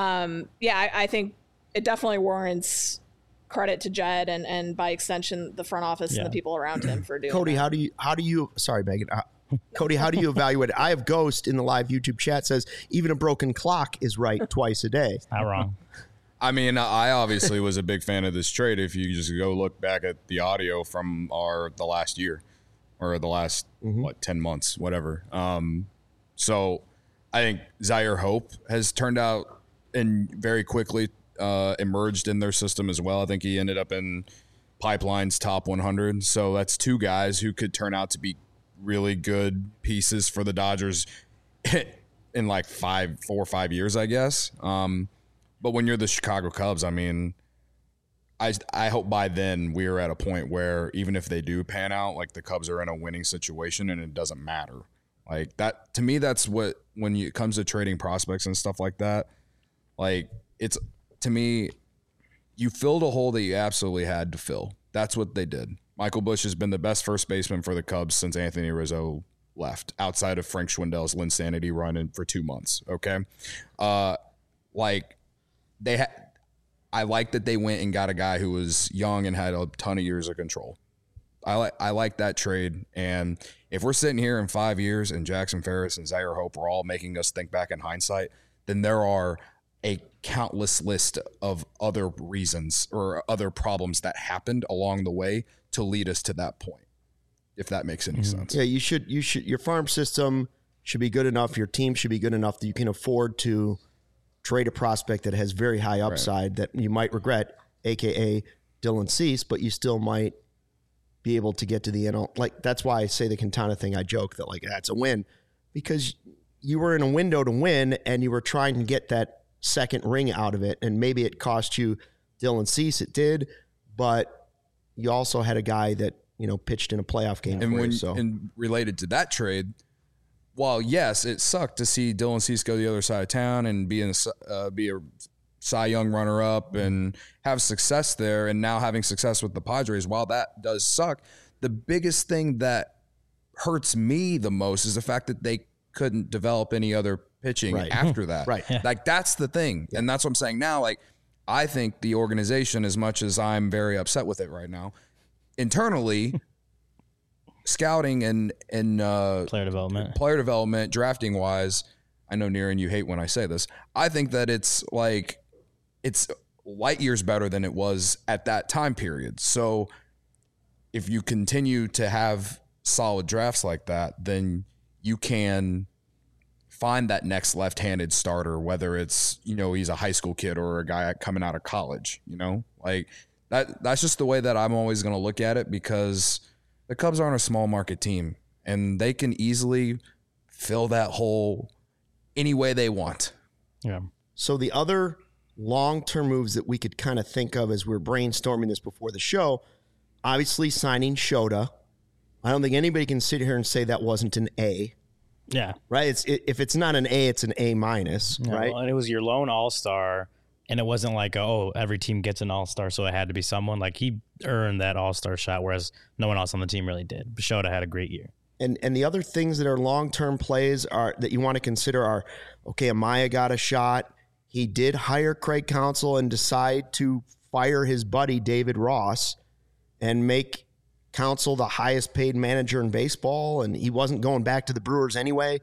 [SPEAKER 2] I think it definitely warrants credit to Jed and by extension, the front office and the people around him for doing
[SPEAKER 1] Cody,
[SPEAKER 2] that.
[SPEAKER 1] how do you, sorry, Megan. Cody, how do you evaluate it? I have Ghost in the live YouTube chat says even a broken clock is right twice a day.
[SPEAKER 3] Not wrong.
[SPEAKER 4] I mean, I obviously was a big fan of this trade. If you just go look back at the audio from the last year or the last 10 months, whatever. So I think Zaire Hope has turned out and very quickly emerged in their system as well. I think he ended up in Pipeline's top 100. So that's two guys who could turn out to be really good pieces for the Dodgers in 4 or 5 years, I guess. But when you're the Chicago Cubs, I mean, I hope by then we're at a point where even if they do pan out, the Cubs are in a winning situation and it doesn't matter. That, to me, that's what, when it comes to trading prospects and stuff like that, it's, to me, you filled a hole that you absolutely had to fill. That's what they did. Michael Busch has been the best first baseman for the Cubs since Anthony Rizzo left, outside of Frank Schwindel's Linsanity run for 2 months. Okay. I like that they went and got a guy who was young and had a ton of years of control. I like that trade. And if we're sitting here in 5 years and Jackson Ferris and Zaire Hope are all making us think back in hindsight, then there are a countless list of other reasons or other problems that happened along the way to lead us to that point, if that makes any sense.
[SPEAKER 1] Yeah, you should, your farm system should be good enough. Your team should be good enough that you can afford to trade a prospect that has very high upside that you might regret, AKA Dylan Cease, but you still might be able to get to the end. That's why I say the Quintana thing. I joke that that's a win because you were in a window to win and you were trying to get that second ring out of it. And maybe it cost you Dylan Cease. It did, but you also had a guy that, pitched in a playoff game.
[SPEAKER 4] And related to that trade, while yes, it sucked to see Dylan Cease go the other side of town and be a Cy Young runner-up and have success there, and now having success with the Padres, while that does suck, the biggest thing that hurts me the most is the fact that they couldn't develop any other pitching after that.
[SPEAKER 1] Right.
[SPEAKER 3] Yeah.
[SPEAKER 4] That's the thing. And that's what I'm saying now. I think the organization, as much as I'm very upset with it right now, internally, scouting and
[SPEAKER 3] Player
[SPEAKER 4] development, drafting wise, I know Niran, you hate when I say this. I think that it's light years better than it was at that time period. So if you continue to have solid drafts like that, then you can find that next left-handed starter, whether it's, he's a high school kid or a guy coming out of college, that's just the way that I'm always going to look at it, because the Cubs aren't a small market team and they can easily fill that hole any way they want.
[SPEAKER 3] Yeah.
[SPEAKER 1] So the other long-term moves that we could kind of think of as we're brainstorming this before the show, obviously signing Shota. I don't think anybody can sit here and say that wasn't an A.
[SPEAKER 3] Yeah.
[SPEAKER 1] Right? If it's not an A, it's an A minus, right?
[SPEAKER 3] Well, and it was your lone all-star, and it wasn't every team gets an all-star, so it had to be someone. He earned that all-star shot, whereas no one else on the team really did. Shota had a great year.
[SPEAKER 1] And the other things that are long-term plays that you want to consider are, okay, Amaya got a shot. He did hire Craig Counsell and decide to fire his buddy David Ross and make Counsell the highest paid manager in baseball, and he wasn't going back to the Brewers anyway.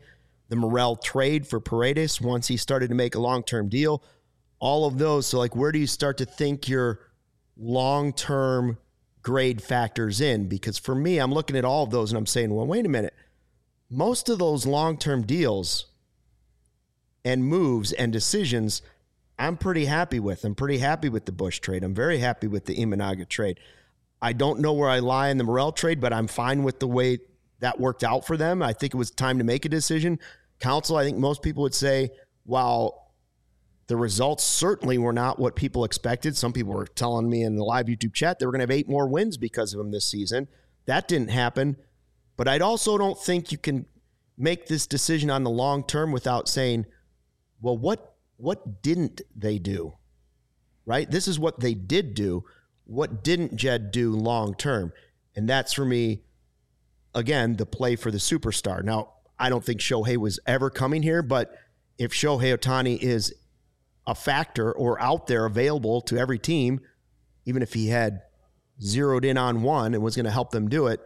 [SPEAKER 1] the Morel trade for Paredes once he started to make a long-term deal, all of those. So, like, where do you start to think your long-term grade factors in? Because for me, I'm looking at all of those and I'm saying, well, wait a minute. Most of those long-term deals and moves and decisions, I'm pretty happy with. I'm pretty happy with the Bush trade. I'm very happy with the Imanaga trade. I don't know where I lie in the Morel trade, but I'm fine with the way that worked out for them. I think it was time to make a decision. Council, I think most people would say, while the results certainly were not what people expected. Some people were telling me in the live YouTube chat they were going to have 8 more wins because of them this season. That didn't happen. But I also don't think you can make this decision on the long term without saying, well, what didn't they do? Right? This is what they did do. What didn't Jed do long term? And that's, for me, again, the play for the superstar. Now, I don't think Shohei was ever coming here, but if Shohei Ohtani is a factor or out there available to every team, even if he had zeroed in on one and was going to help them do it,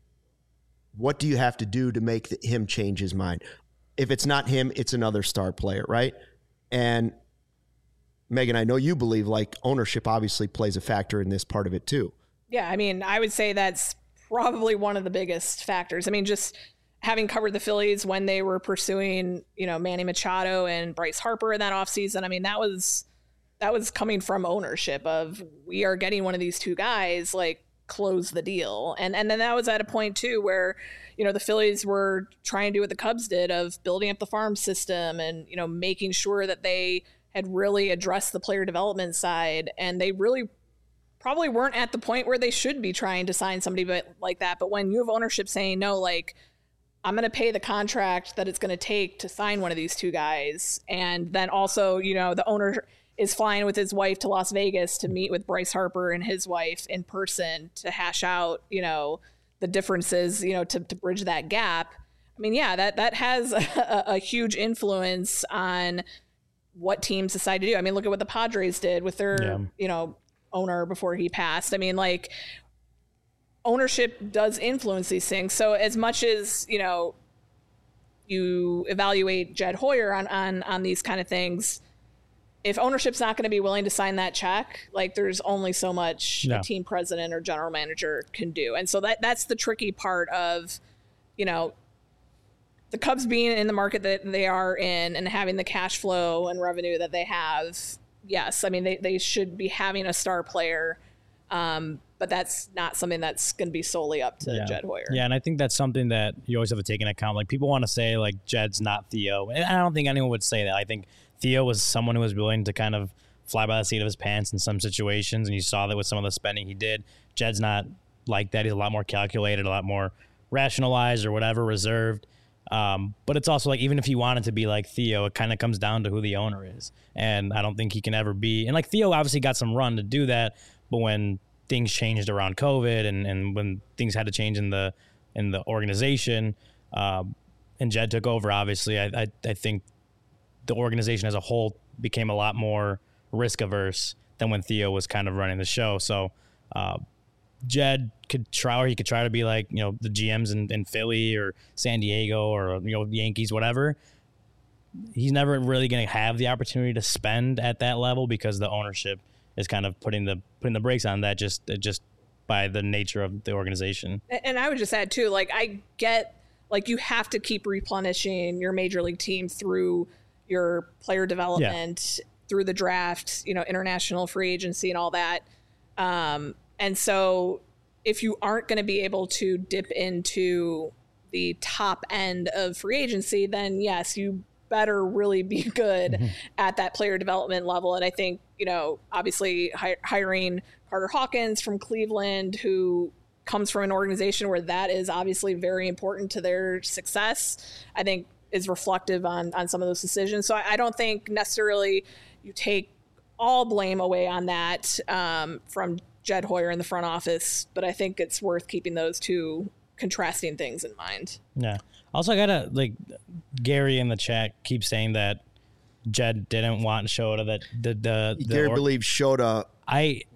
[SPEAKER 1] what do you have to do to make him change his mind? If it's not him, it's another star player, right? And Megan, I know you believe like ownership obviously plays a factor in this part of it too.
[SPEAKER 2] Yeah, I mean, I would say that's probably one of the biggest factors. I mean, just having covered the Phillies when they were pursuing, Manny Machado and Bryce Harper in that offseason, I mean, that was coming from ownership of, we are getting one of these two guys, like, close the deal. And then that was at a point too where, the Phillies were trying to do what the Cubs did of building up the farm system and, making sure that they had really addressed the player development side. And they really probably weren't at the point where they should be trying to sign somebody like that. But when you have ownership saying, no, like, I'm going to pay the contract that it's going to take to sign one of these two guys. And then also, the owner is flying with his wife to Las Vegas to meet with Bryce Harper and his wife in person to hash out, the differences, to bridge that gap. I mean, yeah, that has a huge influence on what teams decide to do. I mean, look at what the Padres did with their, owner before he passed. I mean, like, ownership does influence these things. So as much as, you evaluate Jed Hoyer on these kind of things, if ownership's not going to be willing to sign that check, like, there's only so much a team president or general manager can do. And so that's the tricky part of, the Cubs being in the market that they are in and having the cash flow and revenue that they have. Yes, I mean, they should be having a star player, but that's not something that's going to be solely up to Jed Hoyer.
[SPEAKER 3] Yeah, and I think that's something that you always have to take into account. Like, people want to say, like, Jed's not Theo. And I don't think anyone would say that. I think Theo was someone who was willing to kind of fly by the seat of his pants in some situations, and you saw that with some of the spending he did. Jed's not like that. He's a lot more calculated, a lot more rationalized or whatever, reserved. But it's also like, even if he wanted to be like Theo, it kind of comes down to who the owner is. And I don't think he can ever be. And like, Theo obviously got some run to do that, but when things changed around COVID and when things had to change in the organization, and Jed took over, obviously, I think the organization as a whole became a lot more risk averse than when Theo was kind of running the show. So Jed could try, or he could try to be like, the GMs in Philly or San Diego or, Yankees, whatever. He's never really going to have the opportunity to spend at that level because the ownership is kind of putting the brakes on that just by the nature of the organization.
[SPEAKER 2] And I would just add too, like, I get, like, you have to keep replenishing your major league team through your player development, through the draft, international free agency and all that. And so if you aren't going to be able to dip into the top end of free agency, then yes, you better really be good at that player development level. And I think, obviously hiring Carter Hawkins from Cleveland, who comes from an organization where that is obviously very important to their success, I think is reflective on some of those decisions. So I don't think necessarily you take all blame away on that from Jed Hoyer in the front office, but I think it's worth keeping those two contrasting things in mind.
[SPEAKER 3] Yeah. Also, I gotta, like, Gary in the chat keeps saying that Jed didn't want Shota, that
[SPEAKER 1] Gary believes Shota was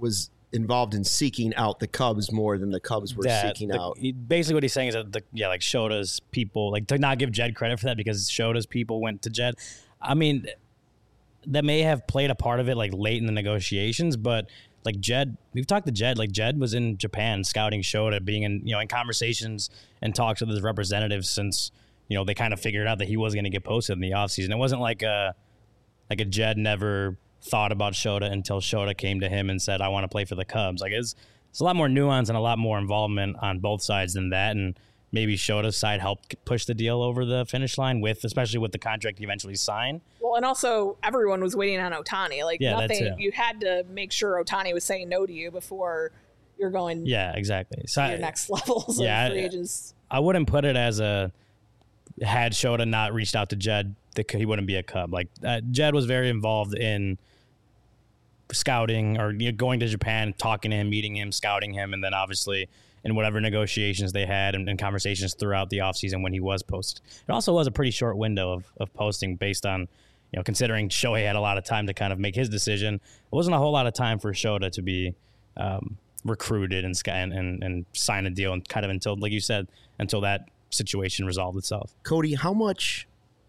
[SPEAKER 1] involved in seeking out the Cubs more than the Cubs were seeking out.
[SPEAKER 3] Basically, what he's saying is that like Shota's people, like to not give Jed credit for that because Shota's people went to Jed. I mean, that may have played a part of it like late in the negotiations, but like Jed, we've talked to Jed. Like Jed was in Japan scouting Shota, being in in conversations and talks with his representatives since they kind of figured out that he was going to get posted in the offseason. It wasn't like a Jed never thought about Shota until Shota came to him and said, I want to play for the Cubs. Like it's a lot more nuance and a lot more involvement on both sides than that. And maybe Shota's side helped push the deal over the finish line especially with the contract he eventually signed.
[SPEAKER 2] Well, and also everyone was waiting on Ohtani. Like
[SPEAKER 3] nothing,
[SPEAKER 2] you had to make sure Ohtani was saying no to you before you're going
[SPEAKER 3] exactly.
[SPEAKER 2] to your next levels of free agents.
[SPEAKER 3] I wouldn't put it as had Shota not reached out to Jed, he wouldn't be a Cub. Like Jed was very involved in scouting or going to Japan, talking to him, meeting him, scouting him, and then obviously in whatever negotiations they had and conversations throughout the offseason when he was posted. It also was a pretty short window of posting based on, considering Shohei had a lot of time to kind of make his decision. It wasn't a whole lot of time for Shota to be recruited and sign a deal and kind of until, like you said, until that situation resolved itself.
[SPEAKER 1] Cody, how much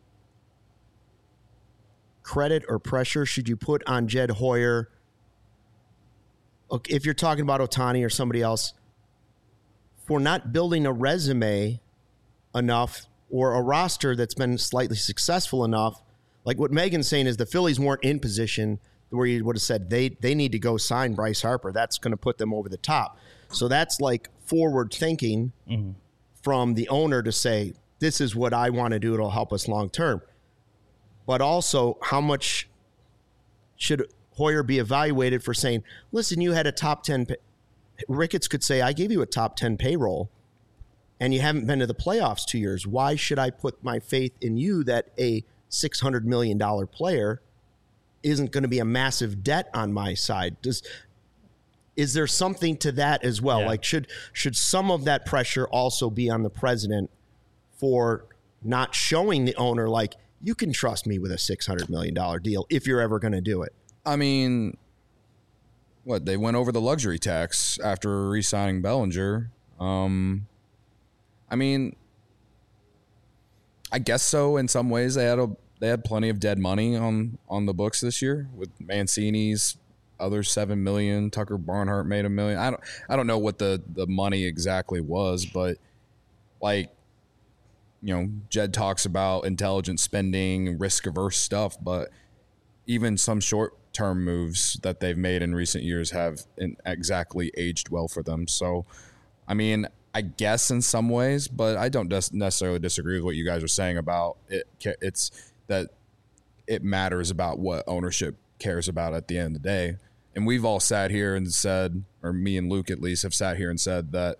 [SPEAKER 1] credit or pressure should you put on Jed Hoyer if you're talking about Ohtani or somebody else for not building a resume enough or a roster that's been slightly successful enough? Like what Megan's saying is the Phillies weren't in position where you would have said they need to go sign Bryce Harper. That's going to put them over the top. So that's like forward thinking from the owner to say, this is what I want to do. It'll help us long term. But also, how much should Hoyer be evaluated for saying, listen, you had a top 10. Ricketts could say, I gave you a top 10 payroll and you haven't been to the playoffs 2 years. Why should I put my faith in you that a $600 million player isn't going to be a massive debt on my side? Is there something to that as well? Yeah. Like should some of that pressure also be on the president for not showing the owner, like, you can trust me with a $600 million deal if you're ever going to do it?
[SPEAKER 4] I mean, they went over the luxury tax after re-signing Bellinger. I mean, I guess so. In some ways, they had plenty of dead money on the books this year with Mancini's other $7 million. Tucker Barnhart made $1 million. I don't know what the money exactly was, but like, Jed talks about intelligent spending, risk-averse stuff, but even some short-term moves that they've made in recent years have exactly aged well for them. So, I mean, I guess in some ways, but I don't necessarily disagree with what you guys are saying about it. It's that it matters about what ownership cares about at the end of the day. And we've all sat here and said, or me and Luke at least have sat here and said that,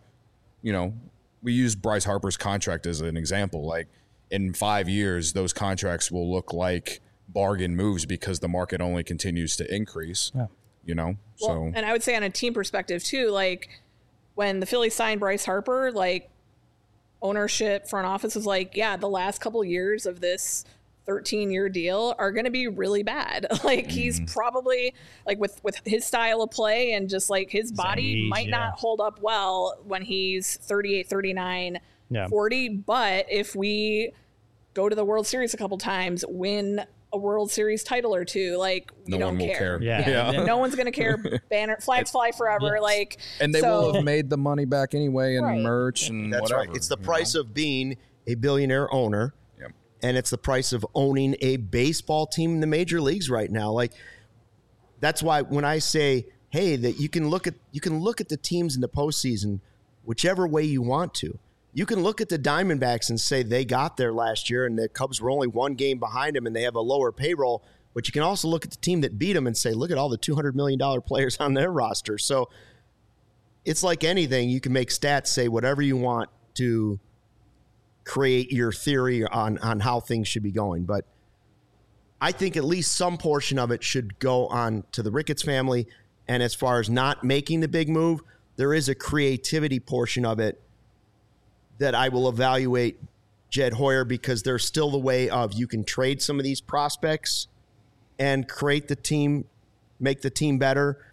[SPEAKER 4] we use Bryce Harper's contract as an example. Like in 5 years, those contracts will look like bargain moves because the market only continues to increase. Yeah.
[SPEAKER 2] Well, and I would say on a team perspective too, like when the Phillies signed Bryce Harper, like ownership, front office was like, yeah, the last couple years of this 13-year deal are going to be really bad. Like he's probably like with his style of play and just like his body might not hold up well when he's 38, 39, 40. But if we go to the World Series a couple times, win a World Series title or two, like we don't care. Yeah. No one's going to care. Banner flags fly forever. Like,
[SPEAKER 4] and they will have made the money back anyway in merch and
[SPEAKER 1] that's
[SPEAKER 4] whatever.
[SPEAKER 1] Right. It's the price of being a billionaire owner. And it's the price of owning a baseball team in the major leagues right now. Like that's why when I say, hey, that you can look at the teams in the postseason whichever way you want to. You can look at the Diamondbacks and say they got there last year and the Cubs were only one game behind them and they have a lower payroll. But you can also look at the team that beat them and say, look at all the $200 million players on their roster. So it's like anything. You can make stats say whatever you want to create your theory on how things should be going. But I think at least some portion of it should go on to the Ricketts family. And as far as not making the big move, there is a creativity portion of it that I will evaluate Jed Hoyer, because there's still the way of you can trade some of these prospects and create the team, make the team better.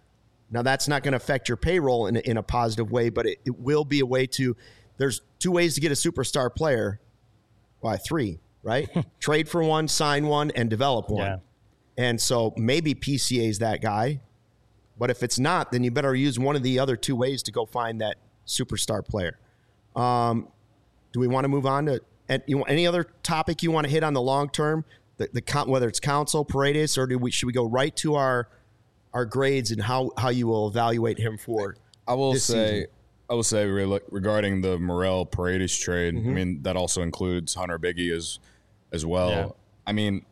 [SPEAKER 1] Now, that's not going to affect your payroll in a positive way, but it will be a way to – there's 2 ways to get a superstar player. Why, 3, right? Trade for one, sign one, and develop one.
[SPEAKER 3] Yeah.
[SPEAKER 1] And so maybe PCA is that guy. But if it's not, then you better use one of the other 2 ways to go find that superstar player. Do we want to move on to any other topic you want to hit on the long term? Whether it's Counsell, Paredes, or should we go right to our grades and how you will evaluate him for?
[SPEAKER 4] I will say
[SPEAKER 1] season?
[SPEAKER 4] regarding the Morel Paredes trade.
[SPEAKER 1] Mm-hmm.
[SPEAKER 4] I mean, that also includes Hunter Biggie as well.
[SPEAKER 3] Yeah.
[SPEAKER 4] I mean,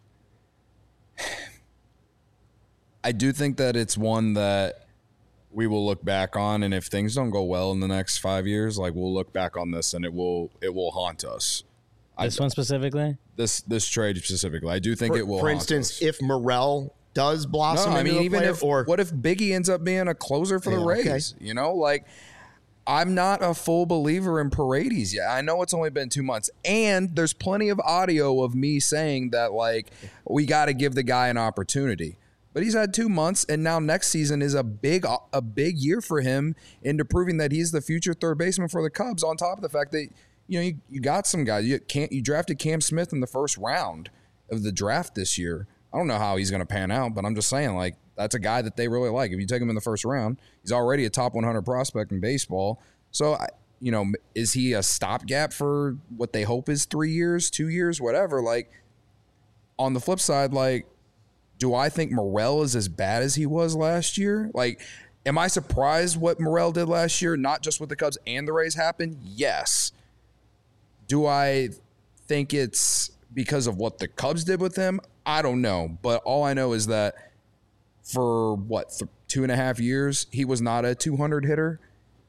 [SPEAKER 4] I do think that it's one that we will look back on, and if things don't go well in the next 5 years, like we'll look back on this and it will haunt us.
[SPEAKER 3] This one specifically?
[SPEAKER 4] This trade specifically, I do think it will.
[SPEAKER 1] For
[SPEAKER 4] haunt
[SPEAKER 1] instance,
[SPEAKER 4] us.
[SPEAKER 1] if Morel does blossom,
[SPEAKER 4] No, I
[SPEAKER 1] into
[SPEAKER 4] mean,
[SPEAKER 1] a
[SPEAKER 4] even
[SPEAKER 1] player,
[SPEAKER 4] if what if Biggie ends up being a closer for the
[SPEAKER 1] Yeah,
[SPEAKER 4] Rays?
[SPEAKER 1] okay.
[SPEAKER 4] You know, like I'm not a full believer in Paredes yet. I know it's only been 2 months, and there's plenty of audio of me saying that like we got to give the guy an opportunity. But he's had 2 months, and now next season is a big year for him into proving that he's the future third baseman for the Cubs. On top of the fact that you got some guys. You drafted Cam Smith in the first round of the draft this year. I don't know how he's going to pan out, but I'm just saying, like, that's a guy that they really like. If you take him in the first round, he's already a top 100 prospect in baseball. So, is he a stopgap for what they hope is 3 years, 2 years, whatever? Like, on the flip side, like, do I think Morel is as bad as he was last year? Like, am I surprised what Morel did last year, not just with the Cubs and the Rays happened? Yes. Do I think it's because of what the Cubs did with him? I don't know. But all I know is that for, 2.5 years, he was not a 200 hitter.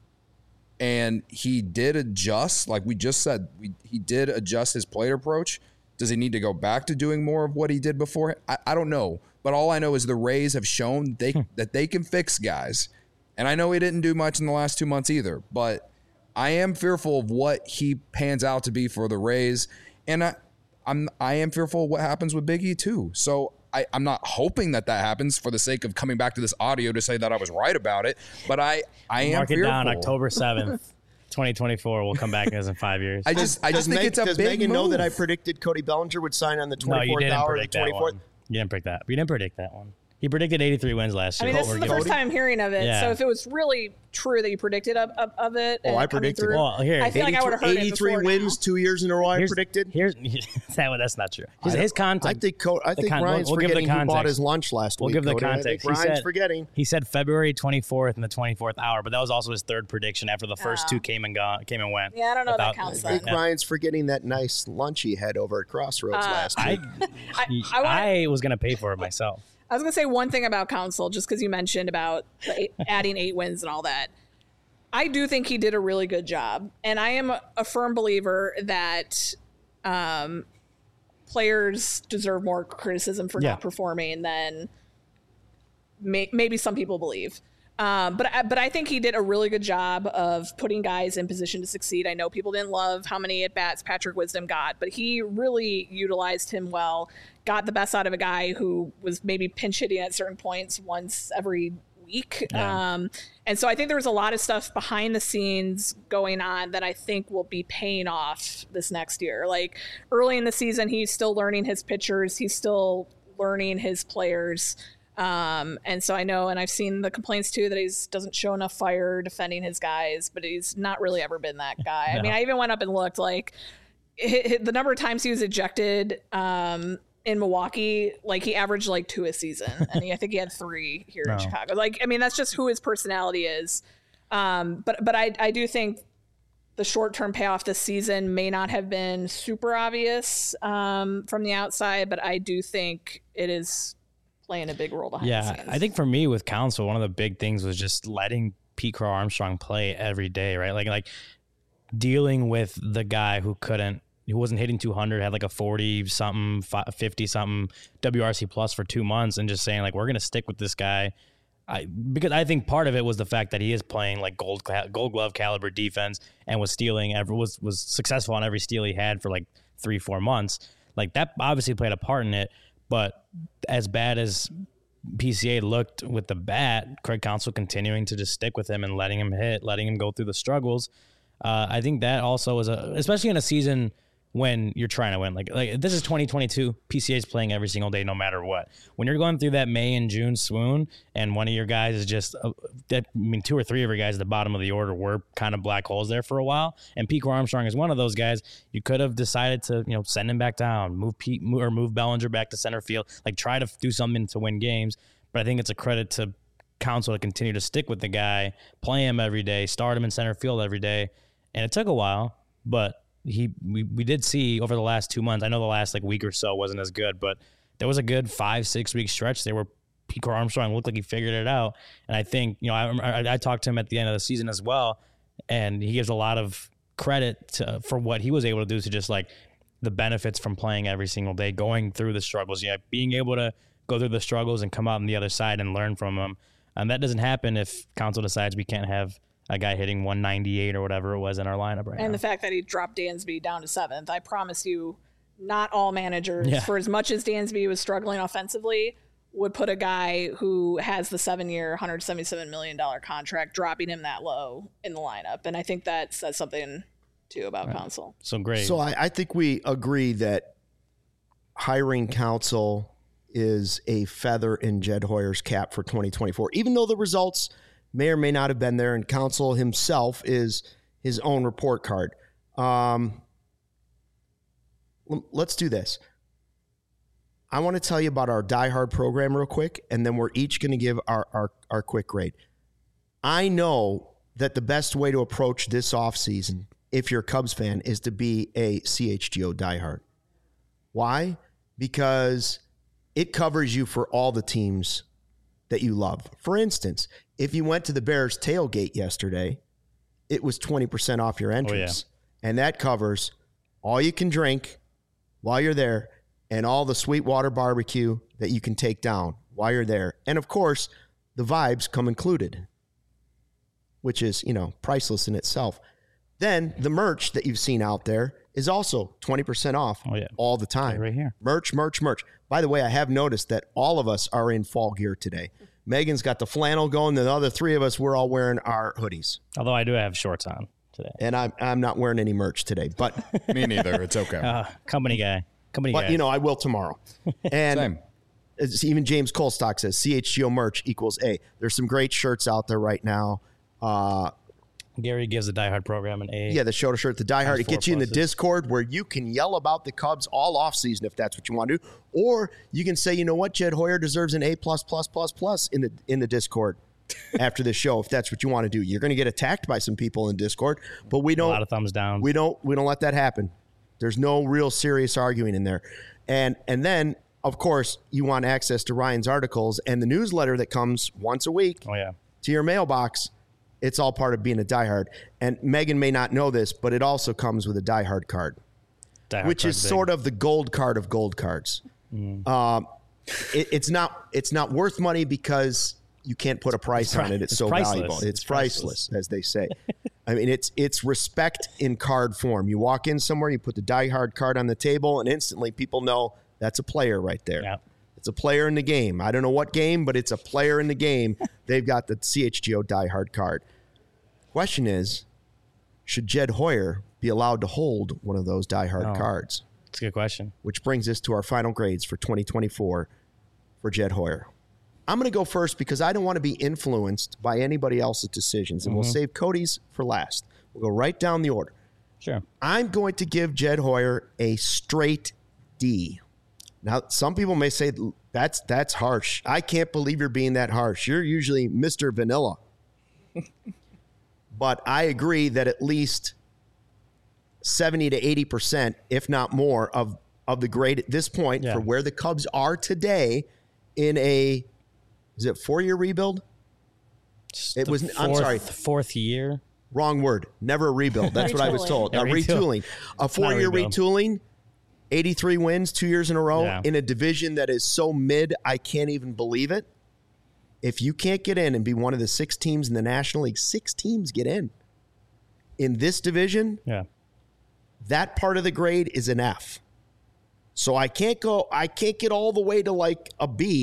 [SPEAKER 4] And he did adjust, like we just said, he did adjust his plate approach. Does he need to go back to doing more of what he did before? I don't know. But all I know is the Rays have shown that they can fix guys. And I know he didn't do much in the last 2 months either. But I am fearful of what he pans out to be for the Rays. And I am fearful of what happens with Biggie too. So I'm not hoping that happens for the sake of coming back to this audio to say that I was right about it. But I am
[SPEAKER 3] Mark it
[SPEAKER 4] fearful.
[SPEAKER 3] down, October 7th. 2024 will come back as in 5 years.
[SPEAKER 4] I just think it's a
[SPEAKER 1] does
[SPEAKER 4] big
[SPEAKER 1] Megan know
[SPEAKER 4] move.
[SPEAKER 1] that I predicted Cody Bellinger would sign on the 24th
[SPEAKER 3] No, you didn't
[SPEAKER 1] hour,
[SPEAKER 3] predict
[SPEAKER 1] the
[SPEAKER 3] that
[SPEAKER 1] 24th?
[SPEAKER 3] one. You didn't predict that. You didn't predict that one. He predicted 83 wins last
[SPEAKER 2] I
[SPEAKER 3] year.
[SPEAKER 2] mean, this is the first time I'm hearing of it.
[SPEAKER 3] Yeah.
[SPEAKER 2] So if it was really true that you predicted of it, and
[SPEAKER 1] I
[SPEAKER 2] it coming
[SPEAKER 1] predicted
[SPEAKER 2] through,
[SPEAKER 1] it.
[SPEAKER 3] Well, here,
[SPEAKER 2] I feel like I would have heard it
[SPEAKER 1] 83
[SPEAKER 2] before
[SPEAKER 1] wins
[SPEAKER 2] now.
[SPEAKER 1] 2 years in a row. I predicted.
[SPEAKER 3] Here's that's not true. His content.
[SPEAKER 1] I think Ryan's
[SPEAKER 3] we'll give the
[SPEAKER 1] forgetting who bought
[SPEAKER 3] context.
[SPEAKER 1] his lunch last
[SPEAKER 3] We'll
[SPEAKER 1] week.
[SPEAKER 3] give the
[SPEAKER 1] Cody. I
[SPEAKER 3] context.
[SPEAKER 1] think Ryan's forgetting.
[SPEAKER 3] He said February 24th and the 24th hour, but that was also his third prediction after the first two came and went.
[SPEAKER 2] Yeah, I don't know if that
[SPEAKER 3] Without-
[SPEAKER 2] counts
[SPEAKER 1] I think
[SPEAKER 2] then.
[SPEAKER 1] Ryan's forgetting that nice lunch he had over at Crossroads last week.
[SPEAKER 3] I was gonna pay for it myself.
[SPEAKER 2] I was going to say one thing about Counsell, just because you mentioned about adding 8 wins and all that. I do think he did a really good job. And I am a firm believer that players deserve more criticism for not performing than maybe some people believe. But I think he did a really good job of putting guys in position to succeed. I know people didn't love how many at-bats Patrick Wisdom got, but he really utilized him well, got the best out of a guy who was maybe pinch hitting at certain points once every week.
[SPEAKER 3] Yeah.
[SPEAKER 2] And so I think there was a lot of stuff behind the scenes going on that I think will be paying off this next year. Like early in the season, he's still learning his pitchers. He's still learning his players. And so I know, and I've seen the complaints too, that he doesn't show enough fire defending his guys, but he's not really ever been that guy.
[SPEAKER 3] No.
[SPEAKER 2] I mean, I even went up and looked, like the number of times he was ejected, in Milwaukee, like he averaged like 2 a season, and I think he had 3 here in Chicago. Like, I mean, that's just who his personality is. But I do think the short-term payoff this season may not have been super obvious, from the outside, but I do think it is playing a big role behind the scenes.
[SPEAKER 3] I think for me with Counsell, one of the big things was just letting Pete Crow Armstrong play every day, right? Like dealing with the guy who wasn't hitting 200, had like a 40-something, 50-something WRC plus for 2 months, and just saying, like, we're going to stick with this guy. Because I think part of it was the fact that he is playing like gold glove caliber defense and was stealing, was successful on every steal he had for like 3-4 months. Like that obviously played a part in it, but as bad as PCA looked with the bat, Craig Counsell continuing to just stick with him and letting him hit, letting him go through the struggles. I think that also was especially in a season when you're trying to win. Like this is 2022. PCA is playing every single day, no matter what. When you're going through that May and June swoon, and one of your guys is just, two or three of your guys at the bottom of the order were kind of black holes there for a while. And Pico Armstrong is one of those guys. You could have decided to, send him back down, move Bellinger back to center field, like try to do something to win games. But I think it's a credit to Counsell to continue to stick with the guy, play him every day, start him in center field every day. And it took a while, but we did see over the last 2 months, I know the last week or so wasn't as good, but there was a good 5-6 week stretch there where Pico Armstrong looked like he figured it out. And I think, I talked to him at the end of the season as well, and he gives a lot of credit for what he was able to do to just the benefits from playing every single day, going through the struggles, being able to go through the struggles and come out on the other side and learn from them. And that doesn't happen if Counsell decides we can't have a guy hitting 198 or whatever it was in our lineup right now.
[SPEAKER 2] And the fact that he dropped Dansby down to 7th, I promise you, not all managers, for as much as Dansby was struggling offensively, would put a guy who has the 7-year, $177 million contract, dropping him that low in the lineup. And I think that says something, too, about Counsell.
[SPEAKER 3] So great.
[SPEAKER 1] So I think we agree that hiring Counsell is a feather in Jed Hoyer's cap for 2024, even though the results may or may not have been there, and Counsell himself is his own report card. Let's do this. I want to tell you about our Die Hard program real quick, and then we're each going to give our quick grade. I know that the best way to approach this offseason, if you're a Cubs fan, is to be a CHGO Die Hard. Why? Because it covers you for all the teams that you love. For instance, if you went to the Bears tailgate yesterday, it was 20% off your entrance. Oh, yeah. And that covers all you can drink while you're there and all the Sweetwater barbecue that you can take down while you're there. And of course, the vibes come included, which is, priceless in itself. Then the merch that you've seen out there is also 20% off all the time.
[SPEAKER 3] Right here.
[SPEAKER 1] Merch. By the way, I have noticed that all of us are in fall gear today. Megan's got the flannel going. The other three of us, we're all wearing our hoodies.
[SPEAKER 3] Although I do have shorts on today.
[SPEAKER 1] And I'm not wearing any merch today. But
[SPEAKER 4] me neither. It's okay.
[SPEAKER 3] Company guy.
[SPEAKER 1] But, I will tomorrow. And even James Colstock says CHGO merch equals A. There's some great shirts out there right now.
[SPEAKER 3] Gary gives the Die Hard program an A.
[SPEAKER 1] Yeah, the shoulder shirt, the Die Hard. It gets you in the Discord where you can yell about the Cubs all offseason if that's what you want to do. Or you can say, you know what, Jed Hoyer deserves an A+++ in the Discord after this show if that's what you want to do. You're going to get attacked by some people in Discord, but we don't.
[SPEAKER 3] A lot of thumbs down.
[SPEAKER 1] We don't let that happen. There's no real serious arguing in there. And then, of course, you want access to Ryan's articles and the newsletter that comes once a week to your mailbox. It's all part of being a diehard. And Megan may not know this, but it also comes with a diehard card, which is sort of the gold card of gold cards. It's not worth money because you can't put a price on it. It's so
[SPEAKER 3] priceless.
[SPEAKER 1] Valuable. It's priceless, as they say. I mean, it's respect in card form. You walk in somewhere, you put the diehard card on the table, and instantly people know that's a player right there.
[SPEAKER 3] Yep.
[SPEAKER 1] It's a player in the game. I don't know what game, but it's a player in the game. They've got the CHGO diehard card. Question is, should Jed Hoyer be allowed to hold one of those diehard cards?
[SPEAKER 3] That's a good question.
[SPEAKER 1] Which brings us to our final grades for 2024 for Jed Hoyer. I'm going to go first because I don't want to be influenced by anybody else's decisions, and we'll save Cody's for last. We'll go right down the order.
[SPEAKER 3] Sure.
[SPEAKER 1] I'm going to give Jed Hoyer a straight D. Now, some people may say that's harsh. I can't believe you're being that harsh. You're usually Mr. Vanilla. But I agree that at least 70 to 80%, if not more, of the grade at this point for where the Cubs are today in a, is it 4-year rebuild? I'm sorry.
[SPEAKER 3] Fourth year.
[SPEAKER 1] Wrong word. Never a rebuild. That's what I was told.
[SPEAKER 3] Yeah,
[SPEAKER 1] retooling. A 4-year retooling. 83 wins 2 years in a row in a division that is so mid, I can't even believe it. If you can't get in and be one of the 6 teams in the National League, 6 teams get in this division, that part of the grade is an F. So I can't get all the way to like a B.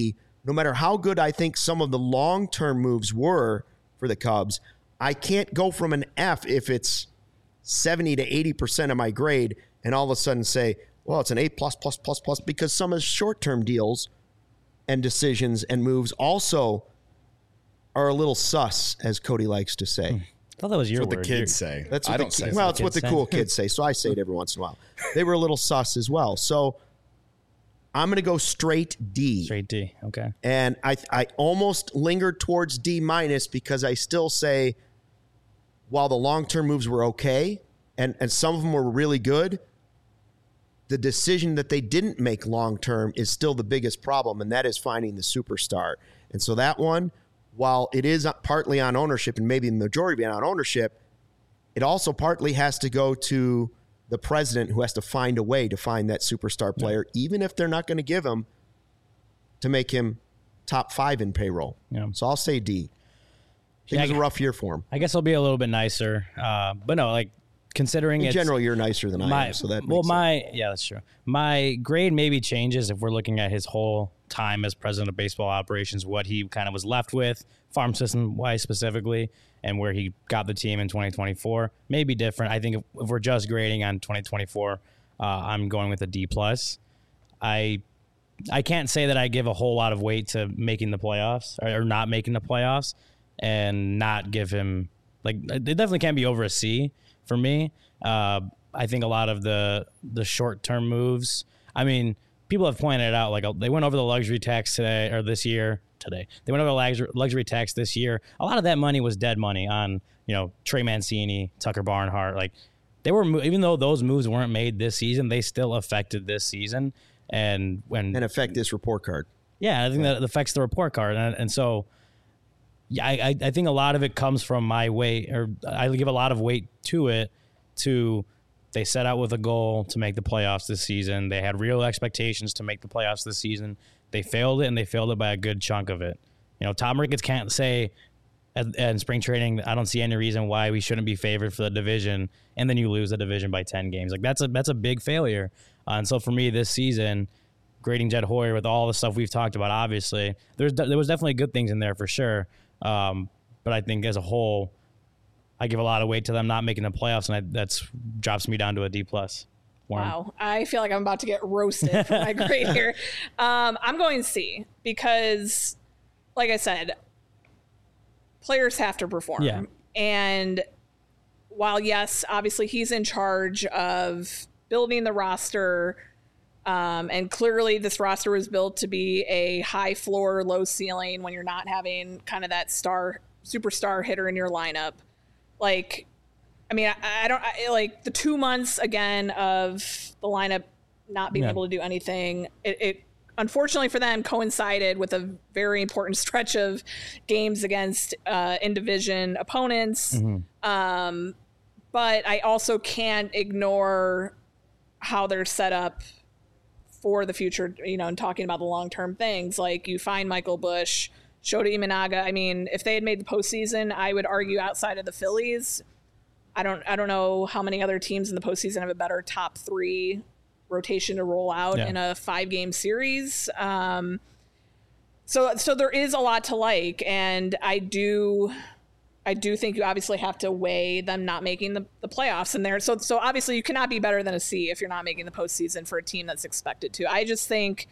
[SPEAKER 1] no matter how good I think some of the long-term moves were for the Cubs, I can't go from an F if it's 70 to 80% of my grade and all of a sudden say, well, it's an A++++, because some of the short-term deals and decisions and moves also are a little sus, as Cody likes to say.
[SPEAKER 3] I thought that was your
[SPEAKER 4] That's what
[SPEAKER 3] word.
[SPEAKER 4] the kids say.
[SPEAKER 1] That's what
[SPEAKER 4] I
[SPEAKER 1] the
[SPEAKER 4] don't say.
[SPEAKER 1] well, it's
[SPEAKER 3] the
[SPEAKER 1] what the
[SPEAKER 3] kids
[SPEAKER 1] cool
[SPEAKER 3] say.
[SPEAKER 1] kids say, so I say it every once in a while. They were a little sus as well. So I'm going to go straight D.
[SPEAKER 3] Straight D. Okay.
[SPEAKER 1] And I almost lingered towards D- because I still say, while the long-term moves were okay, and some of them were really good, the decision that they didn't make long-term is still the biggest problem, and that is finding the superstar. And so that one, while it is partly on ownership and maybe the majority on ownership, it also partly has to go to the president, who has to find a way to find that superstar player, even if they're not going to give him to make him top 5 in payroll.
[SPEAKER 3] Yeah.
[SPEAKER 1] So I'll say D. It was a rough year for him.
[SPEAKER 3] I guess I'll be a little bit nicer. But no, like considering
[SPEAKER 1] In
[SPEAKER 3] it's
[SPEAKER 1] general, you're nicer than I am, so that makes sense.
[SPEAKER 3] Yeah, that's true. My grade maybe changes if we're looking at his whole time as president of baseball operations, what he kind of was left with, farm system wise specifically, and where he got the team in 2024. Maybe different. I think if we're just grading on 2024, I'm going with a D+. I can't say that I give a whole lot of weight to making the playoffs or not making the playoffs and not give him, like, it definitely can't be over a C for me. I think a lot of the short-term moves, I mean, people have pointed it out, like they went over the luxury tax today. They went over the luxury tax this year. A lot of that money was dead money on, Trey Mancini, Tucker Barnhart. Like they were, even though those moves weren't made this season, they still affected this season. And
[SPEAKER 1] affect this report card.
[SPEAKER 3] Yeah, I think that affects the report card. And so, yeah, I think a lot of it comes from my weight, or I give a lot of weight to it, they set out with a goal to make the playoffs this season. They had real expectations to make the playoffs this season. They failed it, and they failed it by a good chunk of it. Tom Ricketts can't say in spring training, I don't see any reason why we shouldn't be favored for the division, and then you lose the division by 10 games. Like that's a big failure. And so for me this season, grading Jed Hoyer with all the stuff we've talked about, obviously, there was definitely good things in there for sure. But I think as a whole, I give a lot of weight to them not making the playoffs, and that drops me down to a D+.
[SPEAKER 2] Wow. I feel like I'm about to get roasted for my grade here. I'm going C because, like I said, players have to perform.
[SPEAKER 3] Yeah.
[SPEAKER 2] And while, yes, obviously he's in charge of building the roster, and clearly this roster was built to be a high floor, low ceiling when you're not having kind of that superstar hitter in your lineup. Like, I mean, I like the 2 months again of the lineup not being able to do anything. It unfortunately for them coincided with a very important stretch of games against in-division opponents. Mm-hmm. But I also can't ignore how they're set up for the future, and talking about the long-term things. Like you find Michael Busch, Shota Imanaga. I mean, if they had made the postseason, I would argue outside of the Phillies, I don't know how many other teams in the postseason have a better top 3 rotation to roll out in a 5-game series. So there is a lot to like, and I do think you obviously have to weigh them not making the playoffs in there. So obviously you cannot be better than a C if you're not making the postseason for a team that's expected to. I just think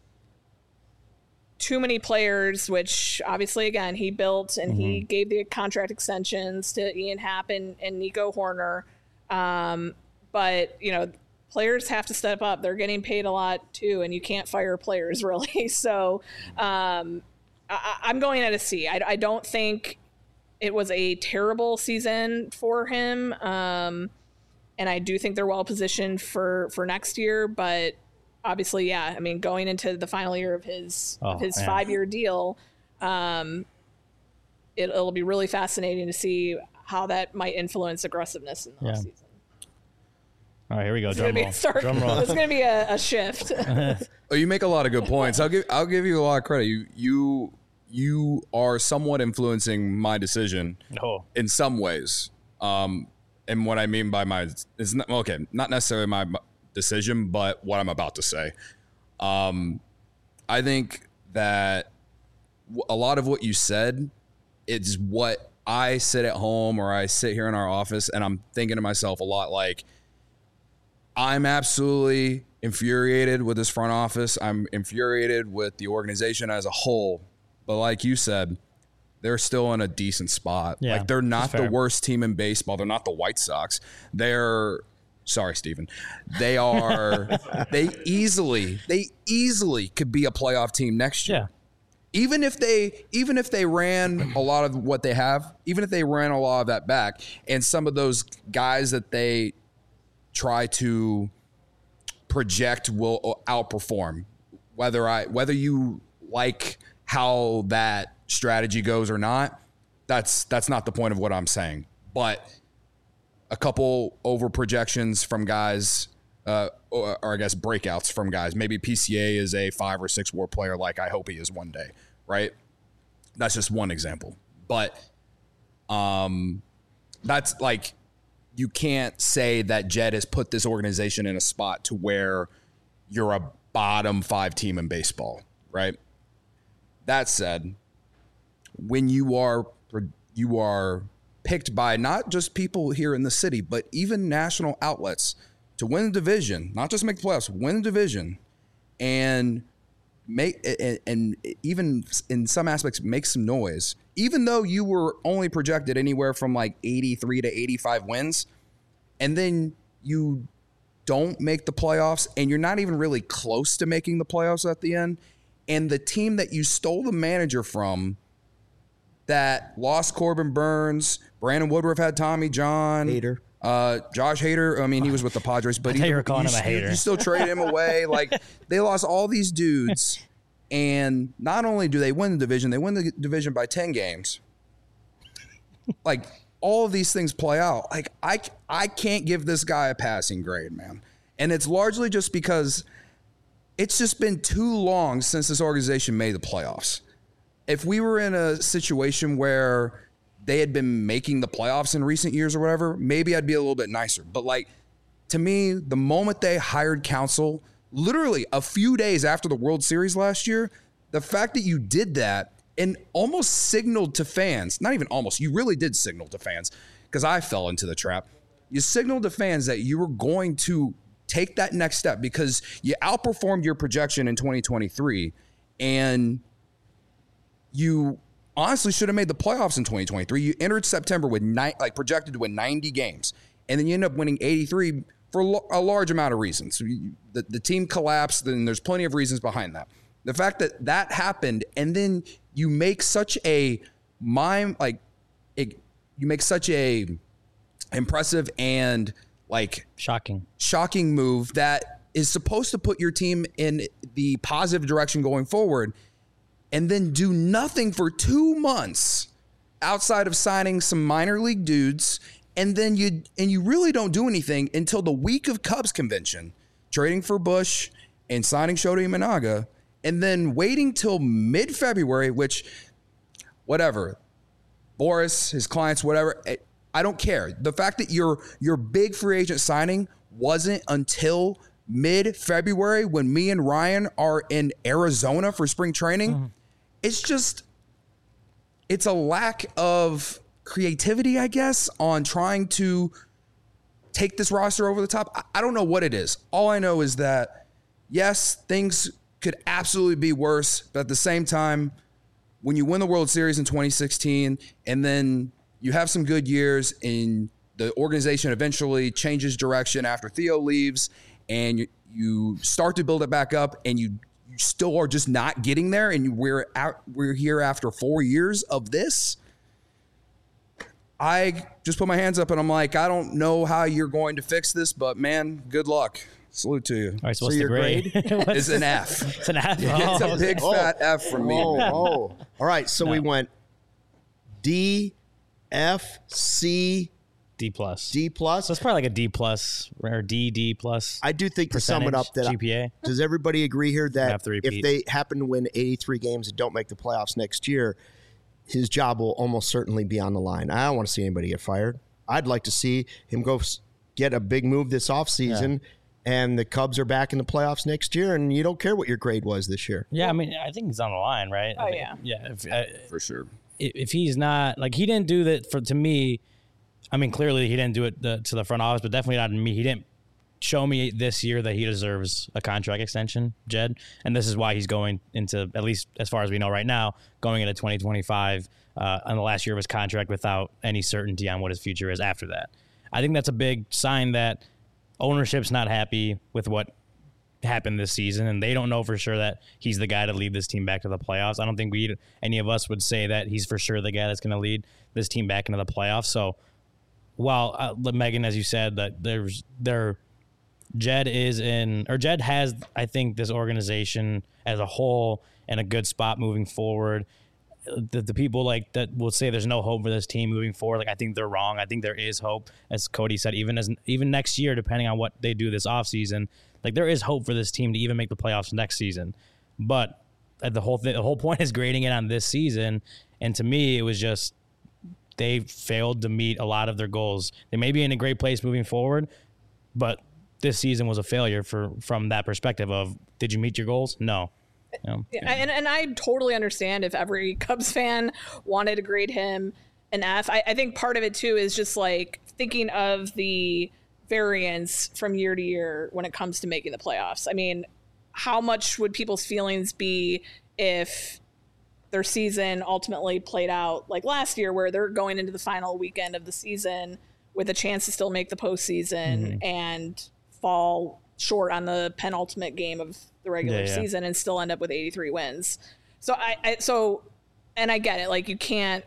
[SPEAKER 2] too many players, which obviously, again, he built and he gave the contract extensions to Ian Happ and Nico Horner. But, players have to step up. They're getting paid a lot too, and you can't fire players really. So I'm going at a C. I don't think it was a terrible season for him. And I do think they're well positioned for next year, but obviously, yeah. I mean, going into the final year of his 5-year deal, it'll be really fascinating to see how that might influence aggressiveness in the offseason.
[SPEAKER 3] All right, here we go. Drum roll.
[SPEAKER 2] It's going to be a shift.
[SPEAKER 4] Oh, you make a lot of good points. I'll give you a lot of credit. You are somewhat influencing my decision in some ways. And what I mean by is not necessarily my decision, but what I'm about to say. I think that a lot of what you said is what I sit at home or I sit here in our office and I'm thinking to myself a lot like, I'm absolutely infuriated with this front office. I'm infuriated with the organization as a whole. But like you said, they're still in a decent spot.
[SPEAKER 3] Yeah,
[SPEAKER 4] like they're not
[SPEAKER 3] that's
[SPEAKER 4] the
[SPEAKER 3] fair.
[SPEAKER 4] worst team in baseball. They're not the White Sox. Sorry, Steven. They are, they easily could be a playoff team next year.
[SPEAKER 3] Yeah.
[SPEAKER 4] Even if they ran a lot of what they have, even if they ran a lot of that back, and some of those guys that they try to project will outperform, whether you like how that strategy goes or not, that's not the point of what I'm saying. But a couple over projections from guys, or I guess breakouts from guys. Maybe PCA is a 5 or 6 WAR player like I hope he is one day, right? That's just one example. But that's like, you can't say that Jed has put this organization in a spot to where you're a bottom 5 team in baseball, right? That said, when you are picked by not just people here in the city, but even national outlets to win the division, not just make the playoffs, win the division, and even in some aspects make some noise, even though you were only projected anywhere from like 83 to 85 wins, and then you don't make the playoffs, and you're not even really close to making the playoffs at the end, and the team that you stole the manager from that lost Corbin Burns, Brandon Woodruff had Tommy John.
[SPEAKER 1] Hader.
[SPEAKER 4] Josh Hader, I mean, he was with the Padres, but
[SPEAKER 3] I thought you were calling him a hater.
[SPEAKER 4] You still traded him away. Like, they lost all these dudes, and not only do they win the division, they win the division by 10 games. Like, all of these things play out. Like, I can't give this guy a passing grade, man. And it's largely just because it's just been too long since this organization made the playoffs. If we were in a situation where they had been making the playoffs in recent years or whatever, maybe I'd be a little bit nicer. But like, to me, the moment they hired Counsell, literally a few days after the World Series last year, the fact that you did that and almost signaled to fans, not even almost, you really did signal to fans, because I fell into the trap. You signaled to fans that you were going to take that next step because you outperformed your projection in 2023, and you honestly should have made the playoffs in 2023. You entered September with projected to win 90 games, and then you end up winning 83 for a large amount of reasons. So the team collapsed, and there's plenty of reasons behind that. The fact that that happened, and then you make such a impressive and like
[SPEAKER 3] Shocking
[SPEAKER 4] move that is supposed to put your team in the positive direction going forward, and then do nothing for 2 months outside of signing some minor league dudes, and then you really don't do anything until the week of Cubs convention, trading for Bush and signing Shota Imanaga, and then waiting till mid-February, which, whatever, Boris, his clients, whatever, I don't care. The fact that your big free agent signing wasn't until mid-February when me and Ryan are in Arizona for spring training, it's a lack of creativity, I guess, on trying to take this roster over the top. I don't know what it is. All I know is that, yes, things could absolutely be worse, but at the same time, when you win the World Series in 2016 and then you have some good years and the organization eventually changes direction after Theo leaves, and you start to build it back up, and you still are just not getting there, and we're here after 4 years of this, I just put my hands up and I'm like, I don't know how you're going to fix this, but man, good luck. Salute to you.
[SPEAKER 3] All right, so what's the grade?
[SPEAKER 4] It's an F.
[SPEAKER 3] It's an F.
[SPEAKER 4] It's a big fat F from me.
[SPEAKER 1] All right, so we went D, F, C,
[SPEAKER 3] D plus.
[SPEAKER 1] D plus.
[SPEAKER 3] So it's probably like a D plus or D plus.
[SPEAKER 1] I do think, to sum it up, that
[SPEAKER 3] GPA.
[SPEAKER 1] Does everybody agree here that
[SPEAKER 3] Have to
[SPEAKER 1] if
[SPEAKER 3] repeat.
[SPEAKER 1] they happen to win 83 games and don't make the playoffs next year, his job will almost certainly be on the line? I don't want to see anybody get fired. I'd like to see him go get a big move this offseason and the Cubs are back in the playoffs next year, and you don't care what your grade was this year.
[SPEAKER 3] Yeah, I mean, I think he's on the line, right?
[SPEAKER 2] Oh, yeah.
[SPEAKER 3] Yeah,
[SPEAKER 4] For sure.
[SPEAKER 3] If he's not, like, he didn't do that to me. I mean, clearly he didn't do it to the front office, but definitely not to me. He didn't show me this year that he deserves a contract extension, Jed. And this is why he's going into, at least as far as we know right now, going into 2025 on the last year of his contract without any certainty on what his future is after that. I think that's a big sign that ownership's not happy with what happened this season, and they don't know for sure that he's the guy to lead this team back to the playoffs. I don't think any of us would say that he's for sure the guy that's going to lead this team back into the playoffs. So while Megan, as you said, that Jed has, I think, this organization as a whole in a good spot moving forward. The people like that will say there's no hope for this team moving forward. Like, I think they're wrong. I think there is hope, as Cody said, even next year, depending on what they do this offseason. Like, there is hope for this team to even make the playoffs next season. But the whole point is grading it on this season. And to me, it was just they failed to meet a lot of their goals. They may be in a great place moving forward, but this season was a failure from that perspective of, did you meet your goals? No.
[SPEAKER 2] Yeah, and I totally understand if every Cubs fan wanted to grade him an F. I think part of it too is just like thinking of the variance from year to year when it comes to making the playoffs. I mean, how much would people's feelings be if their season ultimately played out like last year, where they're going into the final weekend of the season with a chance to still make the postseason and fall short on the penultimate game of the regular season and still end up with 83 wins. So and I get it. Like, you can't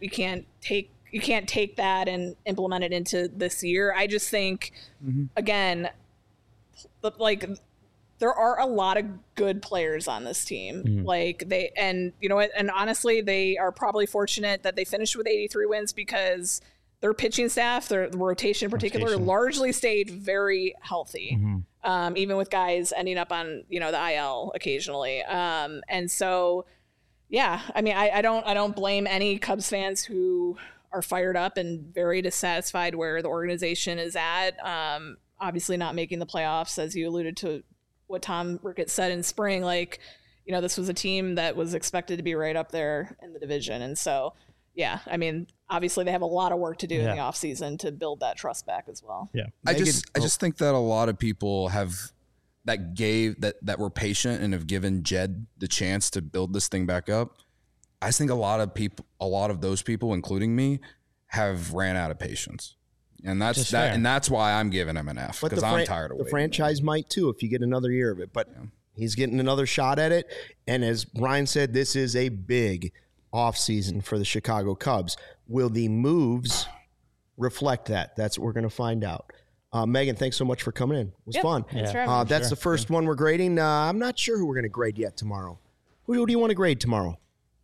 [SPEAKER 2] take that and implement it into this year. I just think, again, like, there are a lot of good players on this team. Like, and you know what? And honestly, they are probably fortunate that they finished with 83 wins because their pitching staff, the rotation in particular, largely stayed very healthy. Even with guys ending up on, the IL occasionally. And so, yeah, I mean, I don't blame any Cubs fans who are fired up and very dissatisfied where the organization is at. Obviously not making the playoffs, as you alluded to what Tom Ricketts said in spring. Like, this was a team that was expected to be right up there in the division. And so, yeah, I mean, obviously they have a lot of work to do in the offseason to build that trust back as well.
[SPEAKER 3] Yeah.
[SPEAKER 4] I just think that a lot of people that were patient and have given Jed the chance to build this thing back up. I just think a lot of those people, including me, have ran out of patience. And that's why I'm giving him an F, because I'm tired of waiting.
[SPEAKER 1] The franchise might too if you get another year of it, but he's getting another shot at it. And as Brian said, this is a big offseason for the Chicago Cubs. Will the moves reflect that? That's what we're going to find out. Megan, thanks so much for coming in. It was fun. That's the first one we're grading. I'm not sure who we're going to grade yet tomorrow. Who do you want to grade tomorrow?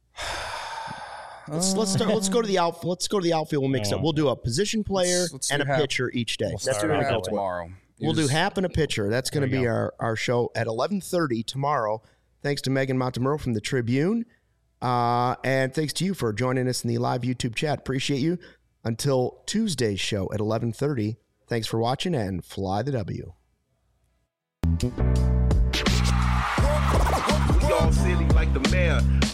[SPEAKER 1] Let's start. Let's go to the outfield. Let's go to the outfield. We'll mix up. We'll do a position player and a pitcher each day.
[SPEAKER 4] That's what we're going to go tomorrow.
[SPEAKER 1] We'll do Hap and a pitcher. That's going to be our show at 11:30 tomorrow. Thanks to Megan Montemurro from the Tribune. And thanks to you for joining us in the live YouTube chat. Appreciate you. Until Tuesday's show at 11:30. Thanks for watching and fly the W.
[SPEAKER 6] We all silly like the mayor.